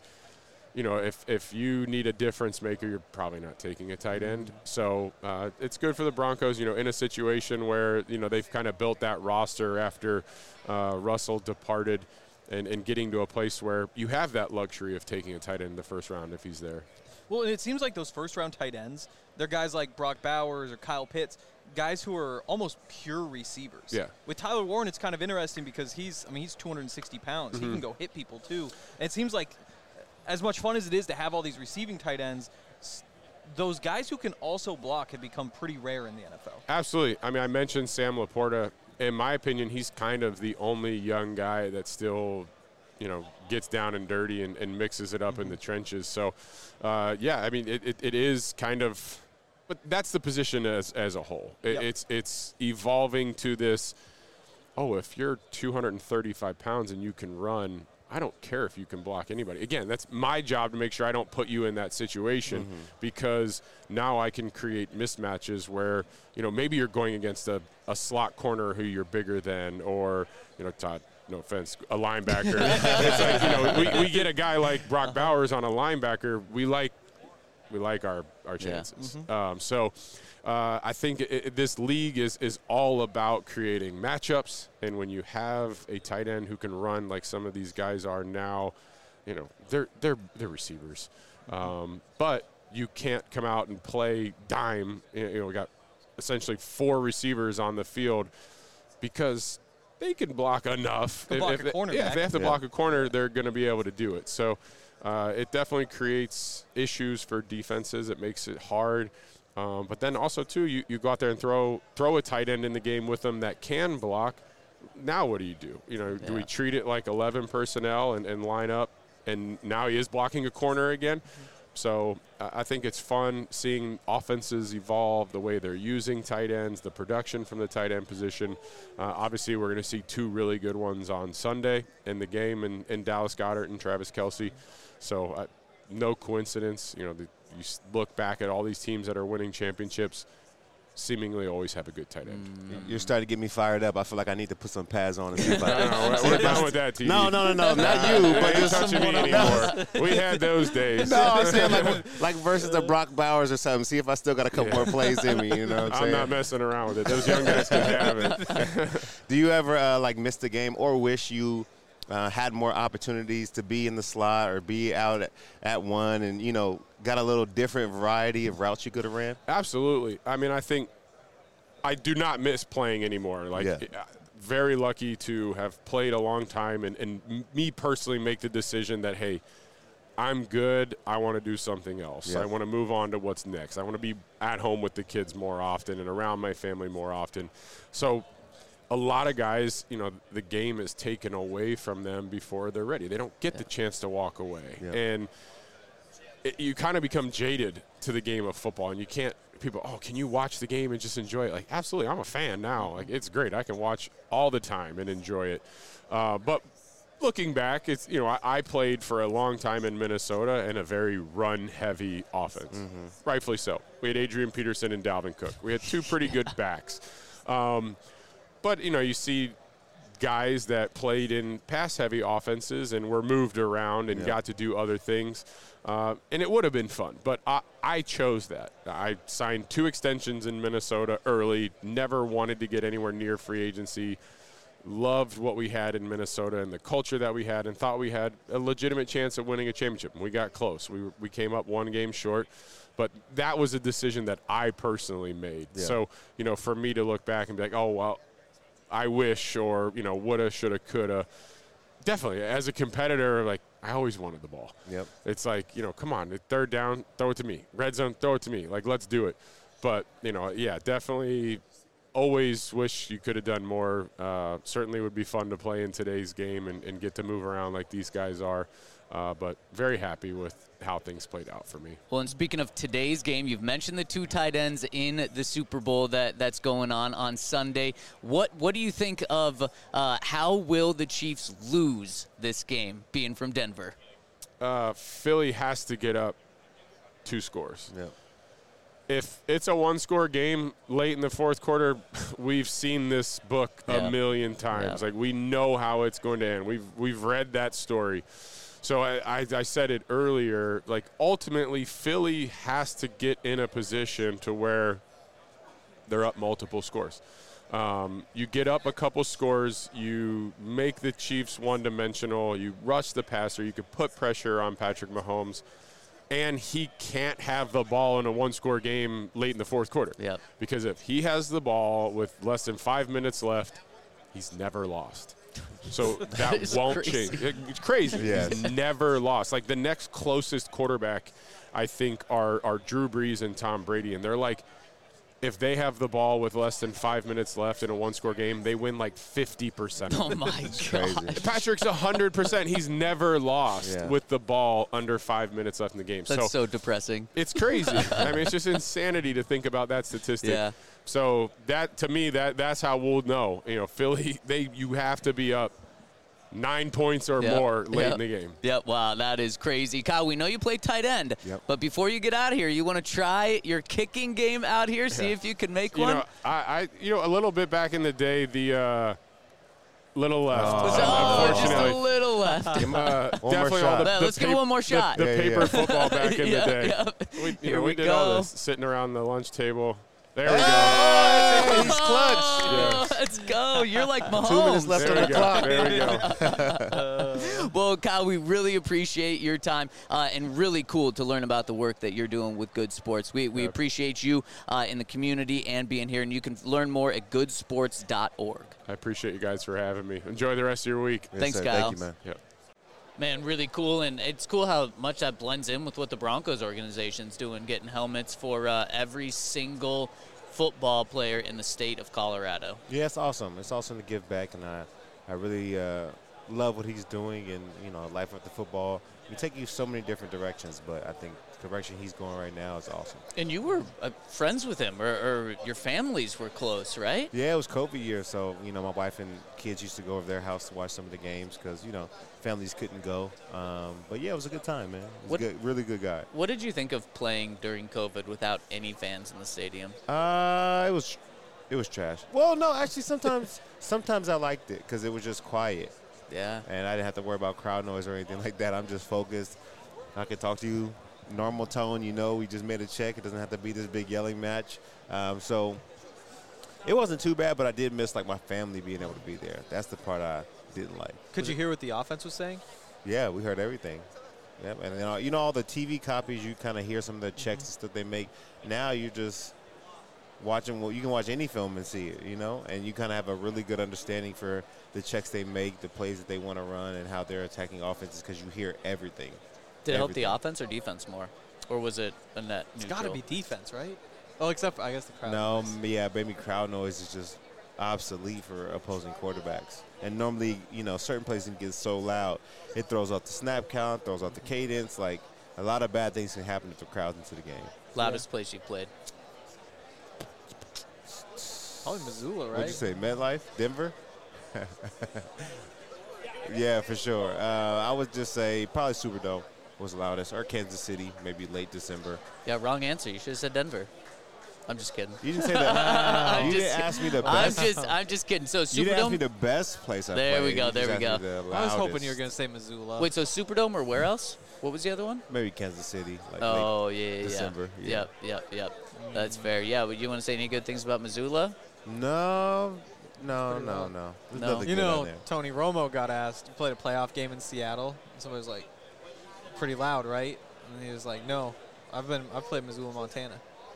Speaker 11: if you need a difference maker, you're probably not taking a tight end. So it's good for the Broncos, in a situation where they've kind of built that roster after Russell departed. And getting to a place where you have that luxury of taking a tight end in the first round if he's there.
Speaker 4: Well, and it seems like those first-round tight ends, they're guys like Brock Bowers or Kyle Pitts, guys who are almost pure receivers.
Speaker 11: Yeah.
Speaker 4: With Tyler Warren, it's kind of interesting because he's 260 pounds. He can go hit people, too. And it seems like as much fun as it is to have all these receiving tight ends, those guys who can also block have become pretty rare in the NFL.
Speaker 11: Absolutely. I mentioned Sam Laporta. In my opinion, he's kind of the only young guy that still, gets down and dirty and mixes it up in the trenches. So, it is kind of – but that's the position as a whole. It's evolving to this, if you're 235 pounds and you can run – I don't care if you can block anybody. Again, that's my job to make sure I don't put you in that situation because now I can create mismatches where, maybe you're going against a slot corner who you're bigger than or, Todd, no offense, a linebacker. It's like, we get a guy like Brock Bowers on a linebacker. We like our chances. I think this league is all about creating matchups, and when you have a tight end who can run like some of these guys are now, they're receivers. But you can't come out and play dime. We got essentially 4 receivers on the field because they can block enough. If they have to block a corner, they're going to be able to do it. So it definitely creates issues for defenses. It makes it hard. But then also, too, you go out there and throw a tight end in the game with them that can block. Now what do you do? Do we treat it like 11 personnel and line up, and now he is blocking a corner again? So I think it's fun seeing offenses evolve, the way they're using tight ends, the production from the tight end position. Obviously, we're going to see 2 really good ones on Sunday in the game in Dallas Goedert and Travis Kelce. So no coincidence, you look back at all these teams that are winning championships, seemingly always have a good tight end.
Speaker 5: You're starting to get me fired up. I feel like I need to put some pads on and see if
Speaker 11: we're done with that, T.
Speaker 5: No, not you. But
Speaker 11: just touching me anymore. We had those days.
Speaker 5: No, I'm saying like versus the Brock Bowers or something. See if I still got a couple more plays in me. You know what I'm saying?
Speaker 11: I'm not messing around with it. Those young guys can have it.
Speaker 5: Do you ever miss the game or wish you had more opportunities to be in the slot or be out at one and, you know, got a little different variety of routes you could have ran?
Speaker 11: Absolutely. I mean, I think I do not miss playing anymore. Like, very lucky to have played a long time and me personally make the decision that, hey, I'm good. I want to do something else. I want to move on to what's next. I want to be at home with the kids more often and around my family more often. So a lot of guys, you know, the game is taken away from them before they're ready. They don't get the chance to walk away. And you kind of become jaded to the game of football, and you can't – people, oh, can you watch the game and just enjoy it? Like, absolutely. I'm a fan now. Like, it's great. I can watch all the time and enjoy it. But – looking back, it's, you know, I played for a long time in Minnesota in a very run-heavy offense. Rightfully so. We had Adrian Peterson and Dalvin Cook. We had two pretty good backs. But, you know, you see guys that played in pass-heavy offenses and were moved around and got to do other things. And it would have been fun. But I chose that. I signed 2 extensions in Minnesota early, never wanted to get anywhere near free agency. Loved what we had in Minnesota and the culture that we had, and thought we had a legitimate chance at winning a championship. And we got close. We came up 1 game short, but that was a decision that I personally made. So, you know, for me to look back and be like, oh, well, I wish, or, you know, woulda, shoulda, coulda. Definitely, as a competitor, like, I always wanted the ball. It's like, you know, come on, 3rd down, throw it to me. Red zone, throw it to me. Like, let's do it. But, you know, definitely – always wish you could have done more. Certainly would be fun to play in today's game and get to move around like these guys are. But very happy with how things played out for me.
Speaker 2: Well, and speaking of today's game, you've mentioned the 2 tight ends in the Super Bowl that's going on Sunday. What do you think of how will the Chiefs lose this game, being from Denver?
Speaker 11: Philly has to get up 2 scores. If it's a 1-score game late in the 4th quarter, we've seen this book a million times. Like, we know how it's going to end. We've read that story. So I said it earlier, like, ultimately Philly has to get in a position to where they're up multiple scores. You get up a couple scores, you make the Chiefs one-dimensional, you rush the passer, you could put pressure on Patrick Mahomes, and he can't have the ball in a 1-score game late in the 4th quarter. Because if he has the ball with less than 5 minutes left, he's never lost. So that won't change. It's crazy. He's never lost. Like, the next closest quarterback, I think, are Drew Brees and Tom Brady. And they're like, if they have the ball with less than 5 minutes left in a 1-score game, they win like 50%.
Speaker 2: Oh, my God.
Speaker 11: Patrick's 100%. He's never lost with the ball under 5 minutes left in the game.
Speaker 2: That's so depressing.
Speaker 11: It's crazy. I mean, it's just insanity to think about that statistic. So that, to me, that's how we'll know. You know, Philly, you have to be up 9 points or more late in the game.
Speaker 2: Wow, that is crazy. Kyle, we know you play tight end, but before you get out of here, you want to try your kicking game out here, see if you can make one?
Speaker 11: You know, a little bit back in the day, the little left.
Speaker 2: Just a little left.
Speaker 11: Definitely
Speaker 2: let's give one more shot.
Speaker 11: The paper football back in the day. We did all this sitting around the lunch table. There we go.
Speaker 5: He's clutch.
Speaker 2: Let's go. You're like Mahomes.
Speaker 5: 2 minutes left on the clock.
Speaker 11: There we go.
Speaker 2: Well, Kyle, we really appreciate your time and really cool to learn about the work that you're doing with Good Sports. We appreciate you in the community and being here, and you can learn more at goodsports.org.
Speaker 11: I appreciate you guys for having me. Enjoy the rest of your week.
Speaker 2: Thanks, Kyle.
Speaker 5: Thank you, man.
Speaker 2: Man, really cool, and it's cool how much that blends in with what the Broncos organization's doing, getting helmets for every single football player in the state of Colorado.
Speaker 5: Yeah, it's awesome. It's awesome to give back, and I really love what he's doing, and, you know, life after football. You take you so many different directions, but I think the direction he's going right now is awesome.
Speaker 2: And you were friends with him, or your families were close, right?
Speaker 5: Yeah, it was COVID year, so, you know, my wife and kids used to go over their house to watch some of the games because, you know, families couldn't go. But, yeah, it was a good time, man. It was good, really good guy.
Speaker 2: What did you think of playing during COVID without any fans in the stadium?
Speaker 5: It was trash. Well, no, actually, sometimes I liked it because it was just quiet.
Speaker 2: Yeah.
Speaker 5: And I didn't have to worry about crowd noise or anything like that. I'm just focused. I could talk to you normal tone. You know, we just made a check. It doesn't have to be this big yelling match. So it wasn't too bad, but I did miss, like, my family being able to be there. That's the part I didn't like.
Speaker 4: Could you hear what the offense was saying?
Speaker 5: Yeah, we heard everything. Yep. And you know all the TV copies, you kind of hear some of the checks and stuff they make. Now you're just watching. Well, you can watch any film and see it, you know, and you kind of have a really good understanding for the checks they make, the plays that they want to run, and how they're attacking offenses because you hear everything.
Speaker 2: Did it help the offense or defense more, or was it a net neutral?
Speaker 4: It's got to be defense, right? Oh, except for, I guess, the crowd noise.
Speaker 5: Yeah, maybe crowd noise is just obsolete for opposing quarterbacks. And normally, you know, certain plays can get so loud, it throws out the snap count, throws out the cadence. Like, a lot of bad things can happen if the crowd's into the game.
Speaker 2: Loudest place you played?
Speaker 4: Probably Missoula, right?
Speaker 5: What'd you say, MetLife? Denver? Yeah, for sure. I would just say probably Superdome was the loudest, or Kansas City, maybe late December.
Speaker 2: Yeah, wrong answer. You should have said Denver. I'm just kidding.
Speaker 5: You didn't say that. You didn't ask me the best.
Speaker 2: I'm just kidding. So Superdome.
Speaker 5: You didn't ask me the best place I played.
Speaker 2: There we go.
Speaker 5: There we go.
Speaker 4: I was hoping you were going to say Missoula.
Speaker 2: Wait, so Superdome or where else? What was the other one?
Speaker 5: Maybe Kansas City. Like
Speaker 2: late
Speaker 5: December.
Speaker 2: Yeah. Yep. That's fair. Yeah. Would you want to say any good things about Missoula?
Speaker 5: No.
Speaker 2: No.
Speaker 4: You know, Tony Romo got asked. He played a playoff game in Seattle. And somebody was like, "Pretty loud, right?" And he was like, "No, I've played Missoula, Montana."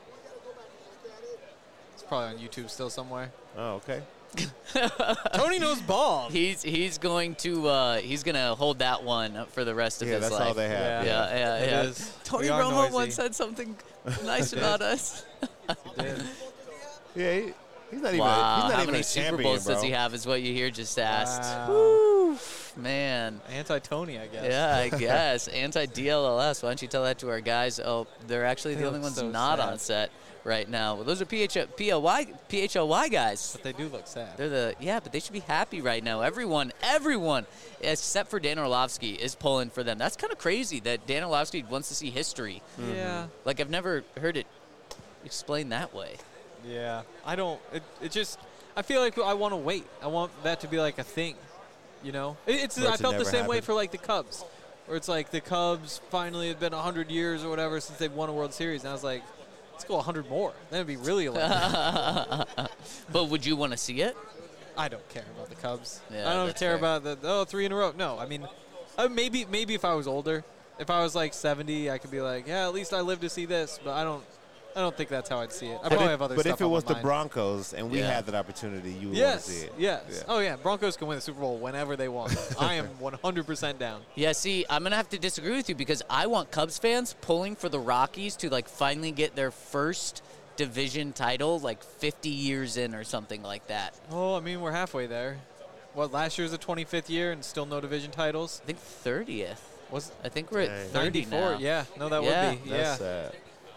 Speaker 4: It's probably on YouTube still somewhere.
Speaker 5: Oh, okay.
Speaker 4: Tony knows ball.
Speaker 2: He's going to hold that one for the rest of his life.
Speaker 5: Yeah, that's all they have.
Speaker 2: Yeah. Tony Romo once said something nice about us.
Speaker 4: He did.
Speaker 5: Yeah. He's not
Speaker 2: wow.
Speaker 5: even
Speaker 2: How many
Speaker 5: a
Speaker 2: Super
Speaker 5: champion,
Speaker 2: Bowls
Speaker 5: bro.
Speaker 2: does he have is what you hear just asked.
Speaker 4: Wow.
Speaker 2: Woo, man.
Speaker 4: Anti-Tony, I guess.
Speaker 2: Yeah, I guess. Anti-DLLS. Why don't you tell that to our guys? Oh, they're actually the only ones
Speaker 4: so
Speaker 2: not
Speaker 4: sad
Speaker 2: on set right now. Well, those are PHLY guys.
Speaker 4: But they do look sad.
Speaker 2: But they should be happy right now. Everyone, except for Dan Orlovsky, is pulling for them. That's kind of crazy that Dan Orlovsky wants to see history.
Speaker 4: Mm-hmm. Yeah.
Speaker 2: Like, I've never heard it explained that way.
Speaker 4: Yeah. I don't. It just. I feel like I want to wait. I want that to be like a thing. You know? I felt the same way for like the Cubs. Where it's like the Cubs finally had been 100 years or whatever since they've won a World Series. And I was like, let's go 100 more. Then it'd be really electric.
Speaker 2: But would you want to see it?
Speaker 4: I don't care about the Cubs.
Speaker 2: Yeah,
Speaker 4: I don't care about the 3 in a row. No, I mean, maybe if I was older, if I was like 70, I could be like, yeah, at least I lived to see this. But I don't think that's how I'd see it. I probably have other stuff.
Speaker 5: But if it was the
Speaker 4: mind.
Speaker 5: Broncos and we had that opportunity, you would want to see it.
Speaker 4: Yes.
Speaker 5: Yeah.
Speaker 4: Oh yeah, Broncos can win the Super Bowl whenever they want. I am 100% down.
Speaker 2: Yeah, see, I'm going to have to disagree with you because I want Cubs fans pulling for the Rockies to like finally get their first division title like 50 years in or something like that.
Speaker 4: Oh, I mean, we're halfway there. What, last year's the 25th year and still no division titles?
Speaker 2: I think 30th.
Speaker 4: I
Speaker 2: think we're at 30
Speaker 4: 94.
Speaker 2: now.
Speaker 4: Yeah, no, that would be.
Speaker 5: That's sad.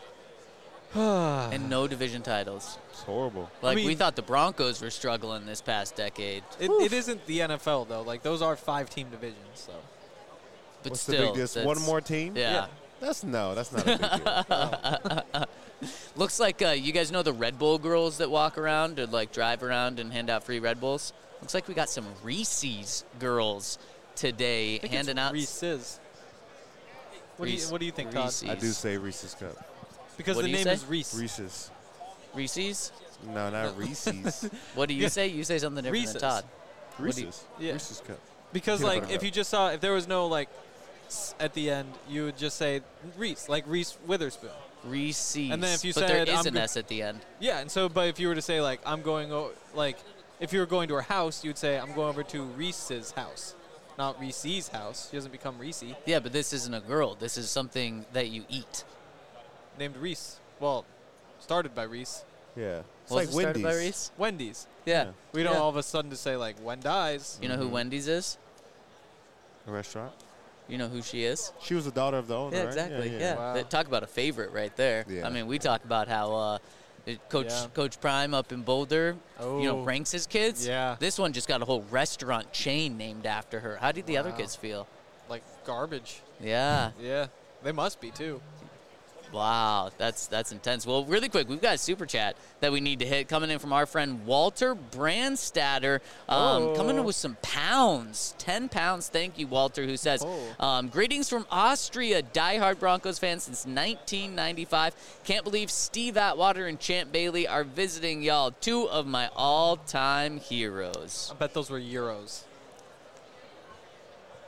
Speaker 2: And no division titles.
Speaker 5: It's horrible.
Speaker 2: Like, we thought the Broncos were struggling this past decade.
Speaker 4: It isn't the NFL, though. Like, those are 5-team divisions, so.
Speaker 2: But
Speaker 5: What's
Speaker 2: still.
Speaker 5: the big deal? One more team?
Speaker 2: Yeah.
Speaker 5: That's not a big deal.
Speaker 2: Looks like you guys know the Red Bull girls that walk around or, like, drive around and hand out free Red Bulls? Looks like we got some Reese's girls today handing out.
Speaker 4: Reese's. What do you think, Todd?
Speaker 2: Reese's.
Speaker 5: I do say Reese's Cup.
Speaker 4: Because the name is Reese.
Speaker 5: Reese's.
Speaker 2: Reese's?
Speaker 5: No, not Reese's.
Speaker 2: What do you say? You say something different than Todd.
Speaker 5: Reese's.
Speaker 4: Yeah.
Speaker 5: Reese's Cup.
Speaker 4: Because, like, if you just saw, if there was no, like, at the end, you would just say Reese, like Reese Witherspoon.
Speaker 2: Reese's.
Speaker 4: And then if you
Speaker 2: but
Speaker 4: said,
Speaker 2: there is an S at the end.
Speaker 4: Yeah, and so, but if you were to say, like, I'm going, like, if you were going to her house, you would say, I'm going over to Reese's house. Not Reese's house. She doesn't become Reese.
Speaker 2: Yeah, but this isn't a girl. This is something that you eat.
Speaker 4: Named Reese. Well, started by Reese.
Speaker 5: Yeah. It's
Speaker 2: Was
Speaker 5: like
Speaker 2: it started
Speaker 5: Wendy's.
Speaker 2: by Reese?
Speaker 4: Wendy's.
Speaker 2: Yeah.
Speaker 4: We don't all of a sudden just say, like, Wendy's.
Speaker 2: You know who Wendy's is?
Speaker 5: A restaurant.
Speaker 2: You know who she is?
Speaker 5: She was the daughter of the owner,
Speaker 2: Yeah,
Speaker 5: right?
Speaker 2: exactly. Yeah.
Speaker 4: Wow.
Speaker 2: Talk about a favorite right there.
Speaker 5: Yeah.
Speaker 2: I mean, we talk about how Coach Prime up in Boulder, ranks his kids.
Speaker 4: Yeah.
Speaker 2: This one just got a whole restaurant chain named after her. How did the other kids feel?
Speaker 4: Like garbage.
Speaker 2: Yeah.
Speaker 4: Yeah. They must be, too.
Speaker 2: Wow, that's intense. Well, really quick, we've got a super chat that we need to hit coming in from our friend Walter Brandstatter, coming in with some pounds, 10 pounds. Thank you, Walter, who says, greetings from Austria, diehard Broncos fan since 1995. Can't believe Steve Atwater and Champ Bailey are visiting y'all, 2 of my all-time heroes.
Speaker 4: I bet those were Euros.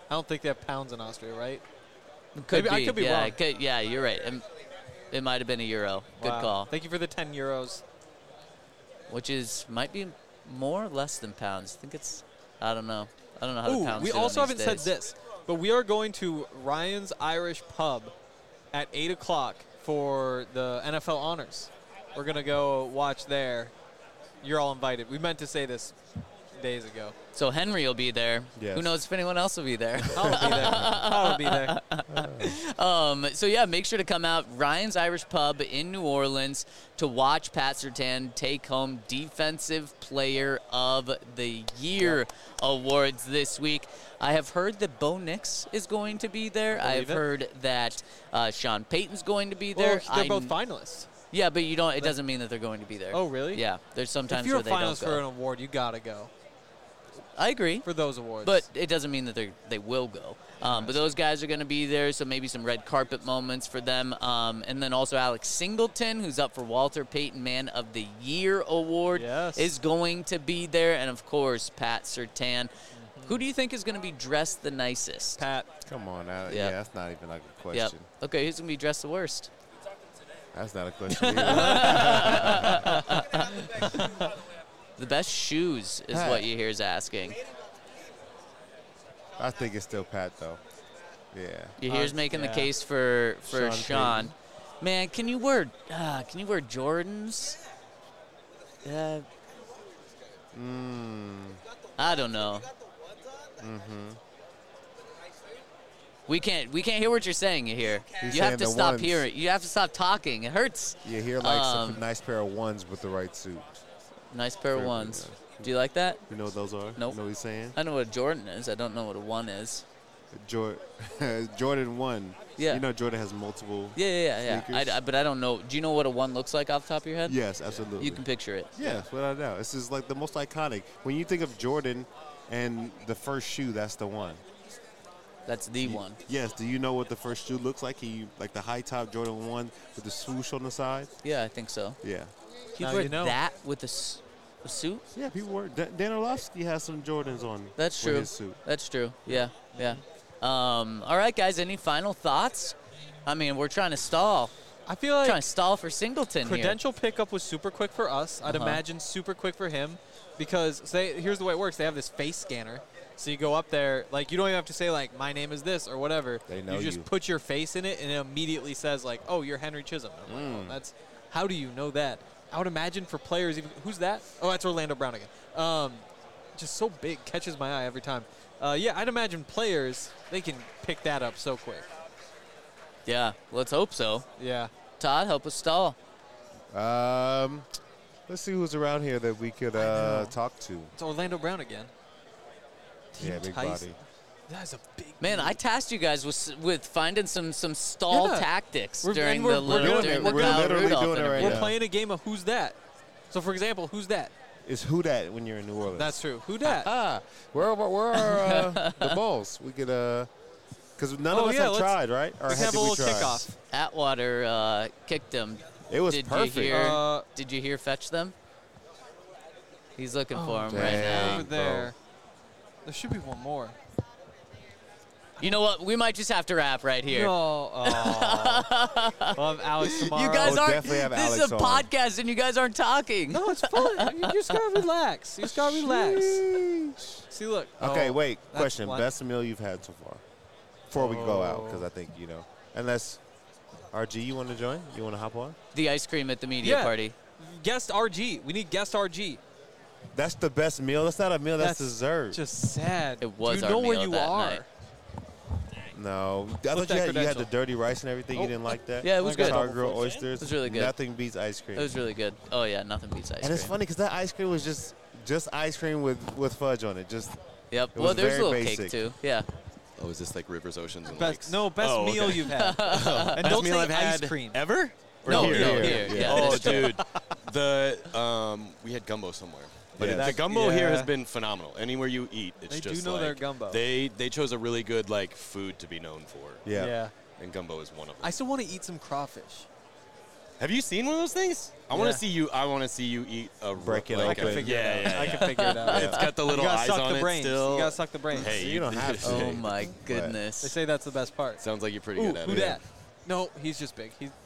Speaker 4: I don't think they have pounds in Austria, right?
Speaker 2: Could
Speaker 4: Maybe,
Speaker 2: be.
Speaker 4: I could be
Speaker 2: yeah,
Speaker 4: wrong.
Speaker 2: Yeah, you're right. It might have been a euro. Good
Speaker 4: Wow.
Speaker 2: call.
Speaker 4: Thank you for the 10 euros.
Speaker 2: Which might be more or less than pounds. I think it's, I don't know. I don't know how the pounds
Speaker 4: we
Speaker 2: do on
Speaker 4: also
Speaker 2: these
Speaker 4: haven't said
Speaker 2: days.
Speaker 4: this, but we are going to Ryan's Irish Pub at 8 o'clock for the NFL Honors. We're going to go watch there. You're all invited. We meant to say this days ago.
Speaker 2: So Henry will be there.
Speaker 5: Yes.
Speaker 2: Who knows if anyone else will be there?
Speaker 4: I'll be there.
Speaker 2: So, yeah, make sure to come out. Ryan's Irish Pub in New Orleans to watch Pat Surtain take home Defensive Player of the Year awards this week. I have heard that Bo Nix is going to be there. I've heard that Sean Payton's going to be there.
Speaker 4: Well, they're both finalists.
Speaker 2: Yeah, but you don't. It doesn't mean that they're going to be there.
Speaker 4: Oh, really?
Speaker 2: Yeah, there's sometimes
Speaker 4: if you're
Speaker 2: where they don't
Speaker 4: a finalist
Speaker 2: go.
Speaker 4: for an award, you got to go.
Speaker 2: I agree.
Speaker 4: For those awards.
Speaker 2: But it doesn't mean that they will go. But those guys are going to be there, so maybe some red carpet moments for them. And then also Alex Singleton, who's up for Walter Payton Man of the Year Award, is going to be there. And, of course, Pat Surtain. Who do you think is going to be dressed the nicest?
Speaker 4: Pat.
Speaker 5: Come on. Yeah, that's not even like a question.
Speaker 2: Yep. Okay, who's going to be dressed the worst?
Speaker 5: That's not a question either.
Speaker 2: The best shoes is what you hear is asking.
Speaker 5: I think it's still Pat, though. Yeah.
Speaker 2: You hear's making the case for Sean. Man, can you wear Jordans? I don't know. We can't hear what you're saying here. You have to stop hearing. You have to stop talking. It hurts.
Speaker 5: You hear like some nice pair of ones with the right suit.
Speaker 2: Nice pair of ones. Do you like that?
Speaker 5: You know what those are?
Speaker 2: Nope.
Speaker 5: You know what he's saying?
Speaker 2: I know what a Jordan is. I don't know what a one is.
Speaker 5: Jordan 1.
Speaker 2: Yeah.
Speaker 5: You know Jordan has multiple
Speaker 2: Yeah.
Speaker 5: sneakers?
Speaker 2: But I don't know. Do you know what a one looks like off the top of your head?
Speaker 5: Yes, absolutely.
Speaker 2: You can picture it.
Speaker 5: Yeah, without a doubt. This is like the most iconic. When you think of Jordan and the first shoe, that's the one.
Speaker 2: That's the one.
Speaker 5: Yes. Do you know what the first shoe looks like? Like the high top Jordan 1 with the swoosh on the side?
Speaker 2: Yeah, I think so.
Speaker 5: Yeah.
Speaker 2: He'd wear that with a suit?
Speaker 5: Yeah, people wear. Dan Orlovsky has some Jordans on.
Speaker 2: That's
Speaker 5: with
Speaker 2: true.
Speaker 5: his suit.
Speaker 2: That's true. Yeah. All right, guys. Any final thoughts? I mean, we're trying to stall.
Speaker 4: I feel like
Speaker 2: trying to stall for Singleton
Speaker 4: credential pickup was super quick for us. I'd imagine super quick for him because here's the way it works. They have this face scanner. So you go up there, like you don't even have to say like my name is this or whatever.
Speaker 5: They know
Speaker 4: you just put your face in it and it immediately says like, oh, you're Henry Chisholm. I'm like, oh, that's how do you know that? I would imagine for players, even who's that? Oh, that's Orlando Brown again. Just so big, catches my eye every time. Yeah, I'd imagine players they can pick that up so quick.
Speaker 2: Yeah, let's hope so.
Speaker 4: Yeah.
Speaker 2: Todd, help us stall.
Speaker 5: Let's see who's around here that we could talk to.
Speaker 4: It's Orlando Brown again.
Speaker 5: Yeah, big body.
Speaker 4: That's a big
Speaker 2: man. I tasked you guys with finding some stall tactics during
Speaker 5: we're
Speaker 2: the
Speaker 5: literally doing it right now.
Speaker 4: We're playing a game of who's that. So, for example, who's that?
Speaker 5: It's who that when you're in New Orleans.
Speaker 4: That's true. Who dat?
Speaker 5: Where are the balls? We could because none of us have tried, right? Or
Speaker 4: we have a little kickoff.
Speaker 2: Atwater kicked him.
Speaker 5: It was perfect.
Speaker 2: Did you hear fetch them? He's looking for him right now.
Speaker 4: Over there. There should be one more.
Speaker 2: You know what? We might just have to wrap right here.
Speaker 4: No. We'll have Alex tomorrow.
Speaker 2: You guys aren't.
Speaker 5: Definitely have
Speaker 2: this
Speaker 5: Alex
Speaker 2: is a
Speaker 5: on.
Speaker 2: podcast, and you guys aren't talking.
Speaker 4: No, it's fun. You just gotta relax. You just gotta relax. See, look.
Speaker 5: Okay, wait.
Speaker 4: That's
Speaker 5: Question:
Speaker 4: one.
Speaker 5: best meal you've had so far? Before we go out, because I think unless RG, you want to join? You want to hop on?
Speaker 2: The ice cream at the media party.
Speaker 4: Guest RG. We need guest RG.
Speaker 5: That's the best meal. That's not a meal. That's dessert.
Speaker 4: Just sad.
Speaker 2: It was.
Speaker 4: Do you
Speaker 2: our
Speaker 4: know where
Speaker 2: meal
Speaker 4: you
Speaker 2: that
Speaker 4: are?
Speaker 2: night.
Speaker 5: No, I thought you had the dirty rice and everything. You didn't like that?
Speaker 2: Yeah, it was good.
Speaker 5: Sour grilled oysters.
Speaker 2: It was really good.
Speaker 5: Nothing beats ice cream.
Speaker 2: It was really good. Oh yeah, nothing beats ice cream.
Speaker 5: And it's funny because that ice cream was just ice cream with fudge on it.
Speaker 2: Yep.
Speaker 5: It
Speaker 2: Well,
Speaker 5: was
Speaker 2: there's a
Speaker 5: very
Speaker 2: little
Speaker 5: basic.
Speaker 2: cake too. Yeah.
Speaker 12: Oh, is this like rivers, oceans, and
Speaker 4: Best
Speaker 12: lakes?
Speaker 4: meal you've had. And
Speaker 12: Best
Speaker 4: don't
Speaker 12: meal
Speaker 4: say
Speaker 12: I've
Speaker 4: ice
Speaker 12: had
Speaker 4: cream.
Speaker 12: ever? Or
Speaker 2: No,
Speaker 12: here?
Speaker 2: here. Yeah,
Speaker 12: Oh,
Speaker 2: this time.
Speaker 12: dude. We had gumbo somewhere. But
Speaker 5: Yeah.
Speaker 12: the gumbo here has been phenomenal. Anywhere you eat, it's
Speaker 4: They do
Speaker 12: just
Speaker 4: know
Speaker 12: like
Speaker 4: their gumbo.
Speaker 12: They chose a really good food to be known for.
Speaker 5: Yeah.
Speaker 12: And gumbo is one of them.
Speaker 4: I still want to eat some crawfish.
Speaker 12: Have you seen one of those things? I want to see you. I want to see you eat a
Speaker 5: break it
Speaker 12: like
Speaker 5: open.
Speaker 4: I can figure it out. I can figure it out.
Speaker 12: It's got the little eyes on it still.
Speaker 4: You gotta suck the brains.
Speaker 12: Hey,
Speaker 5: you don't have to.
Speaker 2: Oh my goodness.
Speaker 4: They say that's the best part.
Speaker 12: Sounds like you're pretty good at
Speaker 4: Who
Speaker 12: it.
Speaker 4: dat? No, he's just big. He's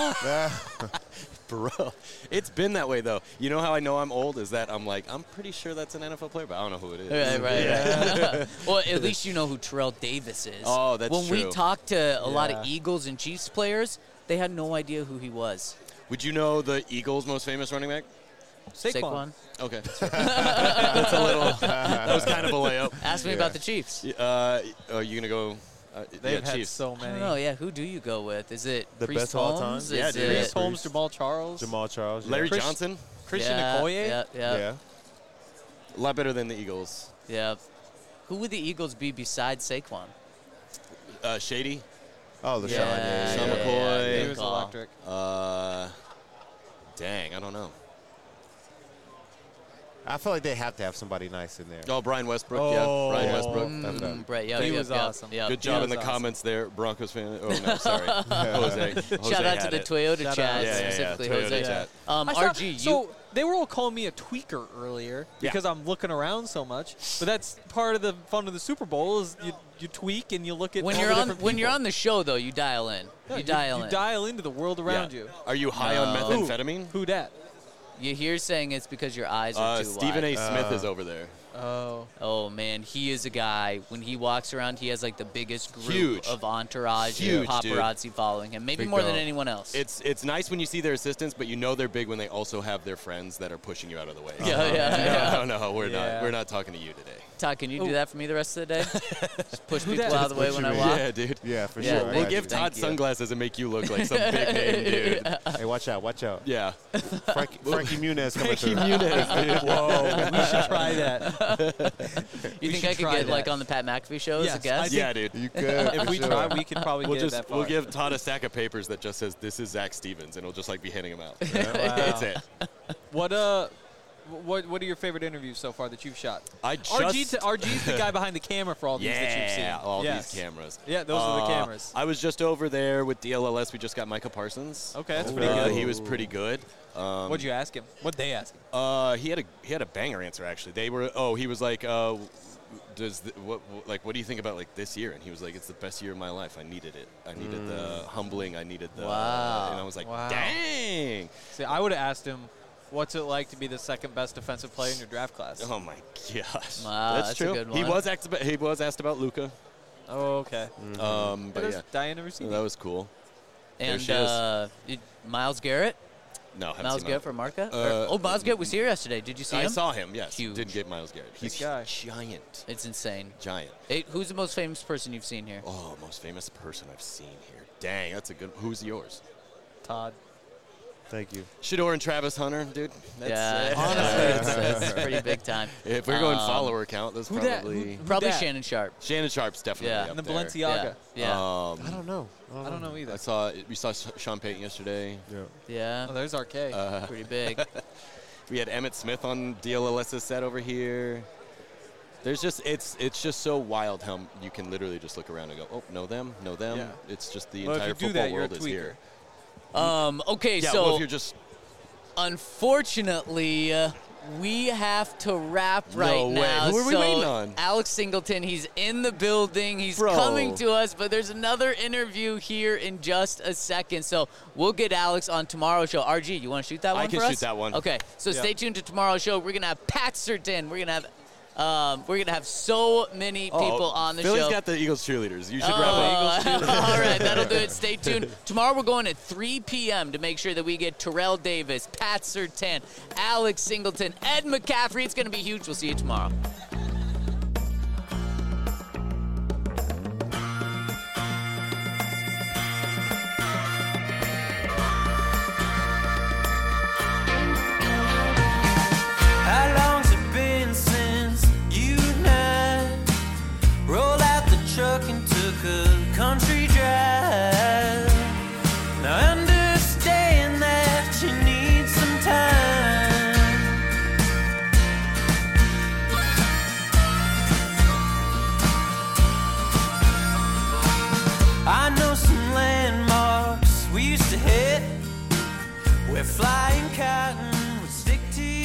Speaker 12: Bro, it's been that way though. You know how I know I'm old is that I'm pretty sure that's an NFL player, but I don't know who it is.
Speaker 2: Right. Well, at least you know who Terrell Davis is.
Speaker 12: Oh, that's
Speaker 2: when
Speaker 12: true.
Speaker 2: When we talked to a lot of Eagles and Chiefs players, they had no idea who he was.
Speaker 12: Would you know the Eagles' most famous running back?
Speaker 2: Saquon.
Speaker 12: Okay. That's a little. That was kind of a layup.
Speaker 2: Ask me about the Chiefs.
Speaker 12: Are you gonna go?
Speaker 4: They've had
Speaker 12: Chiefs.
Speaker 4: so many.
Speaker 2: I don't know. Yeah, who do you go with? Is it
Speaker 5: The
Speaker 2: Priest
Speaker 5: best of all time?
Speaker 2: Holmes?
Speaker 12: Yeah,
Speaker 2: Is
Speaker 12: dude.
Speaker 2: it
Speaker 4: Priest Holmes, Jamal Charles.
Speaker 12: Larry
Speaker 4: Chris-
Speaker 12: Johnson.
Speaker 4: Christian
Speaker 2: yeah,
Speaker 4: Okoye.
Speaker 2: Yeah.
Speaker 12: A lot better than the Eagles.
Speaker 2: Yeah. Who would the Eagles be besides Saquon?
Speaker 12: Shady.
Speaker 5: Oh, the
Speaker 2: Yeah,
Speaker 5: Sean.
Speaker 12: Sean
Speaker 2: yeah,
Speaker 12: McCoy.
Speaker 2: good
Speaker 4: He was
Speaker 2: call.
Speaker 4: electric.
Speaker 12: Dang, I don't know.
Speaker 5: I feel like they have to have somebody nice in there.
Speaker 12: Oh, Brian Westbrook.
Speaker 4: Oh.
Speaker 12: Yeah, Brian Westbrook.
Speaker 2: Right,
Speaker 4: He was awesome.
Speaker 2: Yeah.
Speaker 12: Good job in the
Speaker 4: awesome.
Speaker 12: comments there, Broncos fan. Oh no, sorry, Jose.
Speaker 2: Shout out to
Speaker 12: had
Speaker 2: the
Speaker 12: it.
Speaker 2: Toyota
Speaker 4: Shout
Speaker 2: chat,
Speaker 4: out.
Speaker 12: Yeah,
Speaker 2: specifically
Speaker 12: Toyota
Speaker 2: Jose.
Speaker 12: chat.
Speaker 2: RG,
Speaker 4: So they were all calling me a tweaker earlier because I'm looking around so much. But that's part of the fun of the Super Bowl is you tweak and you look at
Speaker 2: when
Speaker 4: all
Speaker 2: you're
Speaker 4: the
Speaker 2: on
Speaker 4: different
Speaker 2: when you're
Speaker 4: people.
Speaker 2: on the show though, you dial in.
Speaker 4: Yeah,
Speaker 2: you dial in.
Speaker 4: dial into the world around you.
Speaker 12: Are you high on
Speaker 2: No.
Speaker 12: methamphetamine?
Speaker 4: Who dat?
Speaker 2: You hear saying it's because your eyes are too
Speaker 12: Stephen
Speaker 2: wide.
Speaker 12: A. Smith is over there.
Speaker 2: Oh man, he is a guy. When he walks around, he has like the biggest group
Speaker 12: Huge.
Speaker 2: of entourage
Speaker 12: Huge,
Speaker 2: and paparazzi following him. Maybe
Speaker 5: Big
Speaker 2: more than
Speaker 5: dog.
Speaker 2: anyone else.
Speaker 12: It's nice when you see their assistants, but you know they're big when they also have their friends that are pushing you out of the way. No, we're not. We're not talking to you today.
Speaker 2: Todd, can you do that for me the rest of the day? Just push people
Speaker 4: dat?
Speaker 2: out of the way when I walk.
Speaker 12: Yeah, dude.
Speaker 5: Yeah, for
Speaker 2: Yeah,
Speaker 5: sure.
Speaker 2: thank
Speaker 12: We'll
Speaker 2: you.
Speaker 12: give Todd
Speaker 2: Thank you.
Speaker 12: sunglasses and make you look like some big name dude.
Speaker 5: Hey, watch out.
Speaker 12: Yeah.
Speaker 5: Frankie Muniz coming through.
Speaker 4: Whoa, we should try that.
Speaker 2: You think
Speaker 4: should
Speaker 2: I could
Speaker 4: try
Speaker 2: get like
Speaker 4: that.
Speaker 2: on the Pat McAfee show as
Speaker 4: Yes,
Speaker 2: a guest?
Speaker 12: Yeah, dude.
Speaker 5: You could.
Speaker 4: If
Speaker 5: for
Speaker 4: we
Speaker 5: sure.
Speaker 4: try, we could probably get that far.
Speaker 12: We'll give Todd a stack of papers that just says this is Zach Stevens, and he'll just like be handing them out.
Speaker 4: Wow.
Speaker 12: That's it.
Speaker 4: What are your favorite interviews so far that you've shot? RG's the guy behind the camera for all these that you've seen.
Speaker 12: all these cameras.
Speaker 4: Yeah, those are the cameras.
Speaker 12: I was just over there with DLLS. We just got Micah Parsons.
Speaker 4: Okay, that's pretty good.
Speaker 12: He was pretty good.
Speaker 4: What'd you ask him? What'd they ask him?
Speaker 12: He had a banger answer actually. He was like, what do you think about like this year? And he was like, it's the best year of my life. I needed it. I needed the humbling. I needed the.
Speaker 2: Wow.
Speaker 12: And I was like,
Speaker 4: Wow.
Speaker 12: dang.
Speaker 4: See, I would have asked him, what's it like to be the second best defensive player in your draft class?
Speaker 12: Oh my gosh.
Speaker 2: Wow, that's a
Speaker 12: true.
Speaker 2: good
Speaker 12: He
Speaker 2: one.
Speaker 12: was asked about Luka.
Speaker 4: Oh, okay.
Speaker 12: But yeah,
Speaker 4: Diana Rossini.
Speaker 12: that was cool. There
Speaker 2: And
Speaker 12: she is.
Speaker 2: Miles Garrett?
Speaker 12: No, haven't
Speaker 2: Miles
Speaker 12: seen
Speaker 2: Garrett
Speaker 12: Miles.
Speaker 2: from Marca?
Speaker 12: Uh,
Speaker 2: Miles Garrett was here yesterday. Did you see him?
Speaker 12: I saw him. Yes,
Speaker 2: Huge.
Speaker 12: didn't get Miles Garrett. He's
Speaker 4: guy.
Speaker 12: giant.
Speaker 2: It's insane.
Speaker 12: Giant.
Speaker 2: Hey, who's the most famous person you've seen here?
Speaker 12: Oh, most famous person I've seen here. Dang, that's a good. Who's yours?
Speaker 4: Todd.
Speaker 5: Thank you.
Speaker 12: Shador and Travis Hunter, dude.
Speaker 2: Yeah,
Speaker 12: Honestly,
Speaker 2: it's pretty big time.
Speaker 12: if we're going follower count, that's
Speaker 4: who dat?
Speaker 12: probably
Speaker 2: Probably
Speaker 4: dat?
Speaker 2: Shannon Sharp.
Speaker 12: Shannon Sharp's definitely
Speaker 2: Yeah.
Speaker 12: up
Speaker 4: And the
Speaker 12: there.
Speaker 4: Balenciaga.
Speaker 2: Yeah.
Speaker 5: I don't know.
Speaker 4: I don't know either.
Speaker 12: We saw Sean Payton yesterday.
Speaker 2: Yeah.
Speaker 4: Oh, there's RK.
Speaker 2: Pretty big.
Speaker 12: We had Emmett Smith on DLLS's set over here. There's just it's just so wild how you can literally just look around and go, oh, know them.
Speaker 4: Yeah.
Speaker 12: It's just the
Speaker 4: Well, if
Speaker 12: entire
Speaker 4: you do
Speaker 12: football
Speaker 4: that, you're a
Speaker 12: world is
Speaker 4: tweaker.
Speaker 12: here.
Speaker 2: Okay,
Speaker 12: Yeah,
Speaker 2: so
Speaker 12: well, if you're just
Speaker 2: unfortunately, we have to wrap right
Speaker 12: No way.
Speaker 2: now.
Speaker 12: Who are we
Speaker 2: So
Speaker 12: waiting on?
Speaker 2: Alex Singleton, he's in the building. He's
Speaker 12: Bro.
Speaker 2: coming to us, but there's another interview here in just a second. So we'll get Alex on tomorrow's show. RG, you want to shoot that one
Speaker 12: I can
Speaker 2: for us?
Speaker 12: shoot that one.
Speaker 2: Okay, so
Speaker 4: Yeah.
Speaker 2: stay tuned to tomorrow's show. We're gonna have Pat Surtain. We're gonna have so many people on the
Speaker 12: Philly's
Speaker 2: show.
Speaker 12: got the Eagles cheerleaders. You should wrap up.
Speaker 2: All right, that'll do it. Stay tuned. Tomorrow we're going at 3 p.m. to make sure that we get Terrell Davis, Pat Surtain, Alex Singleton, Ed McCaffrey. It's going to be huge. We'll see you tomorrow.
Speaker 1: How long's it been since you and I rolled out the truck and took a country drive? Now I understand that you need some time. where flying cotton would stick to